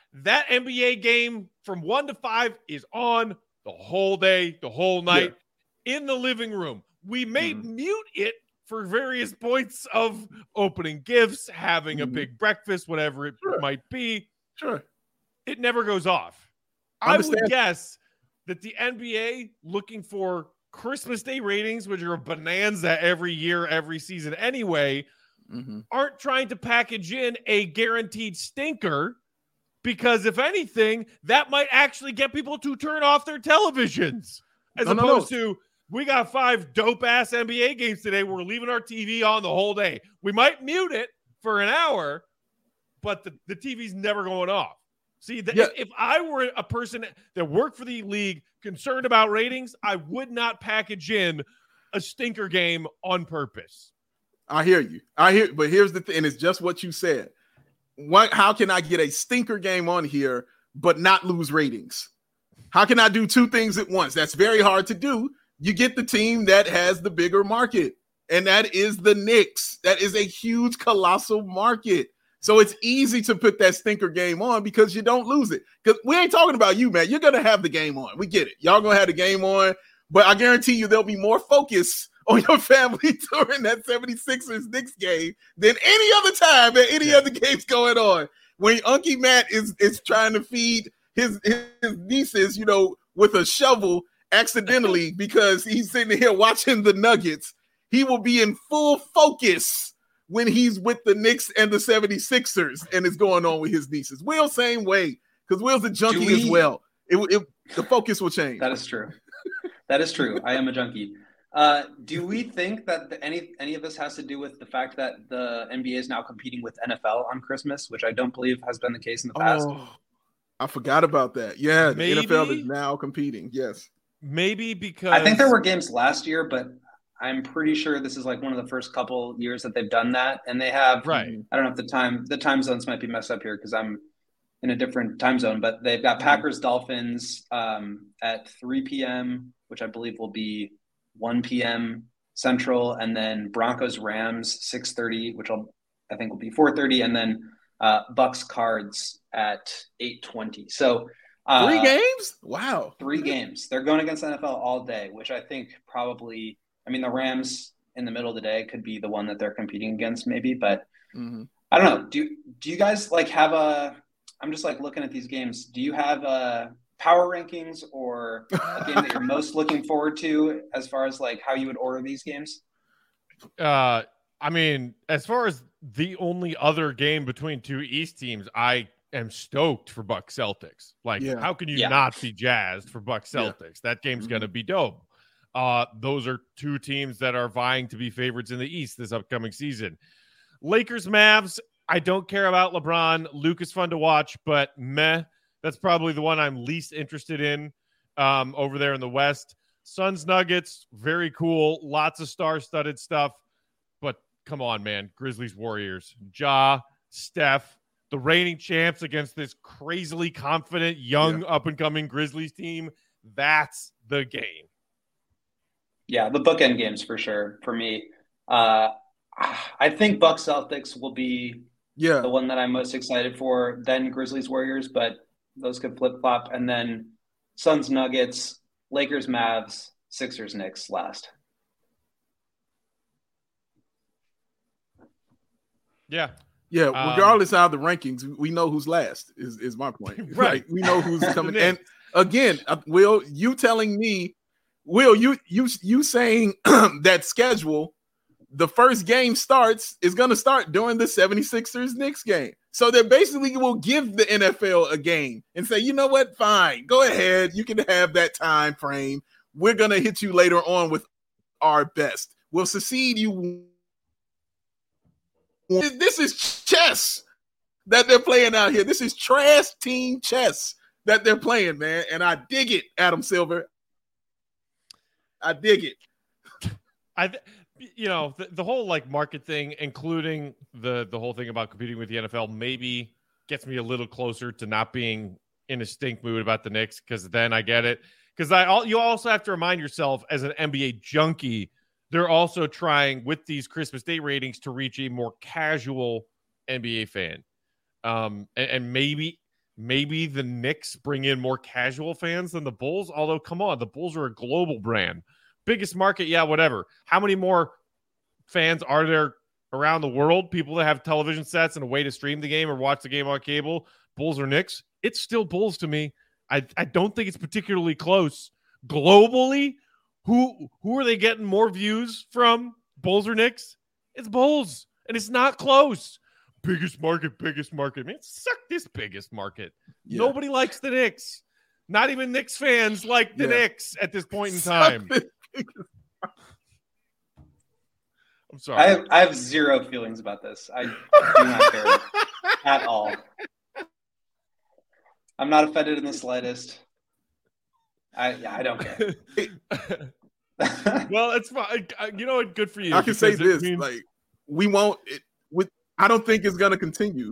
That N B A game from one to five is on the whole day, the whole night yeah. in the living room. We may mm-hmm. mute it for various points of opening gifts, having mm-hmm. a big breakfast, whatever it sure. might be. Sure. It never goes off. I, I would guess that the N B A, looking for Christmas Day ratings, which are a bonanza every year, every season anyway, mm-hmm. aren't trying to package in a guaranteed stinker, because if anything, that might actually get people to turn off their televisions, as no, opposed no, no. to, we got five dope-ass N B A games today. We're leaving our T V on the whole day. We might mute it for an hour, but the, the T V's never going off. See, the, yeah. if, if I were a person that worked for the league concerned about ratings, I would not package in a stinker game on purpose. I hear you. I hear, but here's the thing, and it's just what you said. What, how can I get a stinker game on here but not lose ratings? How can I do two things at once? That's very hard to do. You get the team that has the bigger market, and that is the Knicks. That is a huge, colossal market. So it's easy to put that stinker game on because you don't lose it. Because we ain't talking about you, man. You're going to have the game on. We get it. Y'all going to have the game on. But I guarantee you there'll be more focus on your family during that seventy-sixers Knicks game than any other time that any yeah. other game's going on. When Unky Matt is, is trying to feed his, his nieces, you know, with a shovel accidentally because he's sitting here watching the Nuggets, he will be in full focus when he's with the Knicks and the seventy-sixers and it's going on with his nieces. Will, same way, because Will's a junkie we, as well. It, it, the focus will change. That is true. That is true. I am a junkie. Uh, do we think that the, any any of this has to do with the fact that the N B A is now competing with N F L on Christmas, which I don't believe has been the case in the past? Oh, I forgot about that. Yeah, maybe, the N F L is now competing. Yes. Maybe because I think there were games last year, but I'm pretty sure this is like one of the first couple years that they've done that. And they have, right. I don't know if the time, the time zones might be messed up here because I'm in a different time zone, but they've got Packers Dolphins um, at three p.m., which I believe will be one p.m. Central, and then Broncos Rams six thirty, which I'll, I think will be four thirty, and then uh, Bucks Cards at eight twenty. So uh, three games? Wow. Three games. They're going against the N F L all day, which I think probably, I mean, the Rams in the middle of the day could be the one that they're competing against maybe, but mm-hmm. I don't know. Do, do you guys like have a, I'm just like looking at these games. Do you have a power rankings or a game that you're most looking forward to as far as like how you would order these games? Uh, I mean, as far as the only other game between two East teams, I am stoked for Bucks Celtics. Like, yeah. how can you yeah. not be jazzed for Bucks Celtics? Yeah. That game's mm-hmm. going to be dope. Uh, those are two teams that are vying to be favorites in the East this upcoming season. Lakers Mavs, I don't care about LeBron. Luke is fun to watch, but meh. That's probably the one I'm least interested in um, over there in the West. Suns Nuggets, very cool. Lots of star-studded stuff. But come on, man. Grizzlies Warriors. Ja, Steph, the reigning champs against this crazily confident, young, yeah. up-and-coming Grizzlies team. That's the game. Yeah, the bookend games for sure for me. Uh, I think Bucks Celtics will be yeah. the one that I'm most excited for, then Grizzlies Warriors, but those could flip-flop. And then Suns Nuggets, Lakers Mavs, Sixers Knicks last. Yeah. Yeah, regardless um, of the rankings, we know who's last is, is my point. Right. We know who's coming. And again, Will, you telling me, Will, you you you saying that schedule, the first game starts is going to start during the seventy-sixers Knicks game. So they basically will give the N F L a game and say, you know what, fine, go ahead. You can have that time frame. We're going to hit you later on with our best. We'll succeed you. This is chess that they're playing out here. This is trash team chess that they're playing, man. And I dig it, Adam Silver. I dig it. I, you know, the, the whole like market thing, including the the whole thing about competing with the N F L, maybe gets me a little closer to not being in a stink mood about the Knicks, because then I get it. Because I, all you also have to remind yourself as an N B A junkie, they're also trying with these Christmas Day ratings to reach a more casual N B A fan, um, and, and maybe maybe the Knicks bring in more casual fans than the Bulls. Although, come on, the Bulls are a global brand. Biggest market, yeah, whatever. How many more fans are there around the world? People that have television sets and a way to stream the game or watch the game on cable, Bulls or Knicks? It's still Bulls to me. I, I don't think it's particularly close. Globally, who who are they getting more views from, Bulls or Knicks? It's Bulls, and it's not close. Biggest market, biggest market. Man, suck this biggest market. Yeah. Nobody likes the Knicks. Not even Knicks fans like the yeah. Knicks at this point in time. I'm sorry. I have, I have zero feelings about this. I do not care at all. I'm not offended in the slightest. I yeah, I don't care. Well, it's fine. You know what? Good for you. I can say this: means... like we won't. It, with I don't think it's going to continue.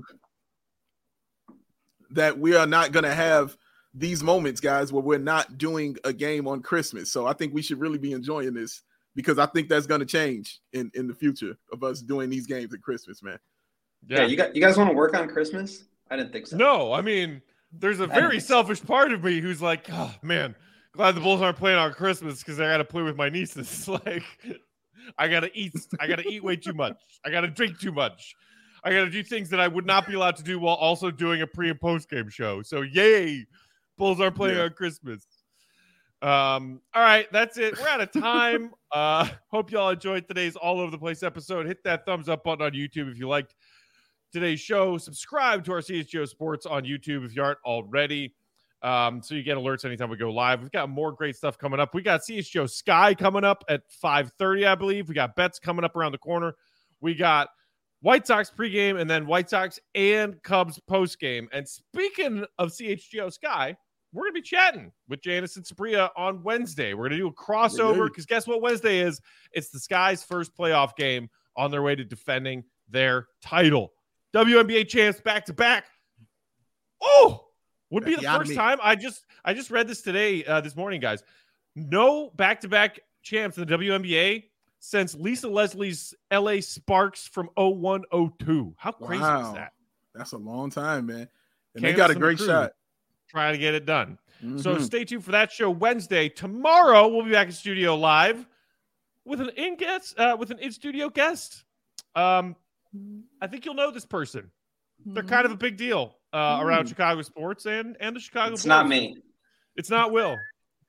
That we are not going to have these moments, guys, where we're not doing a game on Christmas. So I think we should really be enjoying this, because I think that's going to change in, in the future of us doing these games at Christmas, man. Yeah, yeah you got you guys want to work on Christmas? I didn't think so. No, I mean, there's a very selfish part of me who's like, oh man, glad the Bulls aren't playing on Christmas because I got to play with my nieces. Like, I gotta eat, I gotta eat way too much. I gotta drink too much. I gotta do things that I would not be allowed to do while also doing a pre and post game show. So yay, Bulls aren't playing yeah. on Christmas. Um, all right, that's it. We're out of time. uh, hope y'all enjoyed today's all over the place episode. Hit that thumbs up button on YouTube if you liked today's show. Subscribe to our C H G O Sports on YouTube if you aren't already, um, so you get alerts anytime we go live. We've got more great stuff coming up. We got C H G O Sky coming up at five thirty, I believe. We got bets coming up around the corner. We got White Sox pregame and then White Sox and Cubs postgame. And speaking of C H G O Sky, we're going to be chatting with Janice and Sabria on Wednesday. We're going to do a crossover because guess what Wednesday is? It's the Sky's first playoff game on their way to defending their title. W N B A champs back-to-back. Oh, would be the first time. I just I just read this today, uh, this morning, guys. No back-to-back champs in the W N B A since Lisa Leslie's L A Sparks from oh one oh two. How crazy wow. is that? That's a long time, man. And Candace they got a great shot. Trying to get it done. Mm-hmm. So stay tuned for that show Wednesday. Tomorrow we'll be back in studio live with an in guest, uh, with an in studio guest. Um, I think you'll know this person. They're kind of a big deal uh, around mm. Chicago sports and and the Chicago. It's Bulls. not me. It's not Will.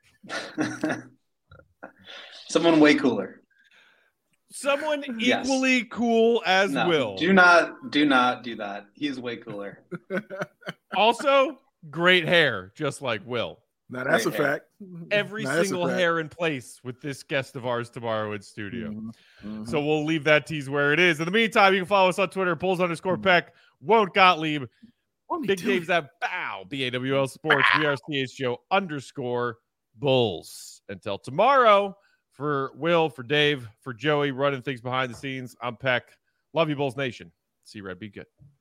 Someone way cooler. Someone yes. equally cool as no, Will. Do not, do not do that. He's way cooler. Also, great hair, just like Will. Now that's great a hair. fact. Every now single hair in place with this guest of ours tomorrow in studio. Mm-hmm. Mm-hmm. So we'll leave that tease where it is. In the meantime, you can follow us on Twitter, Bulls underscore Peck, Won't Gottlieb, Big Dave's at Bow, B A W L Sports. We are C H G O underscore Bulls. Until tomorrow, for Will, for Dave, for Joey, running things behind the scenes, I'm Peck. Love you, Bulls Nation. See you, Red. Be good.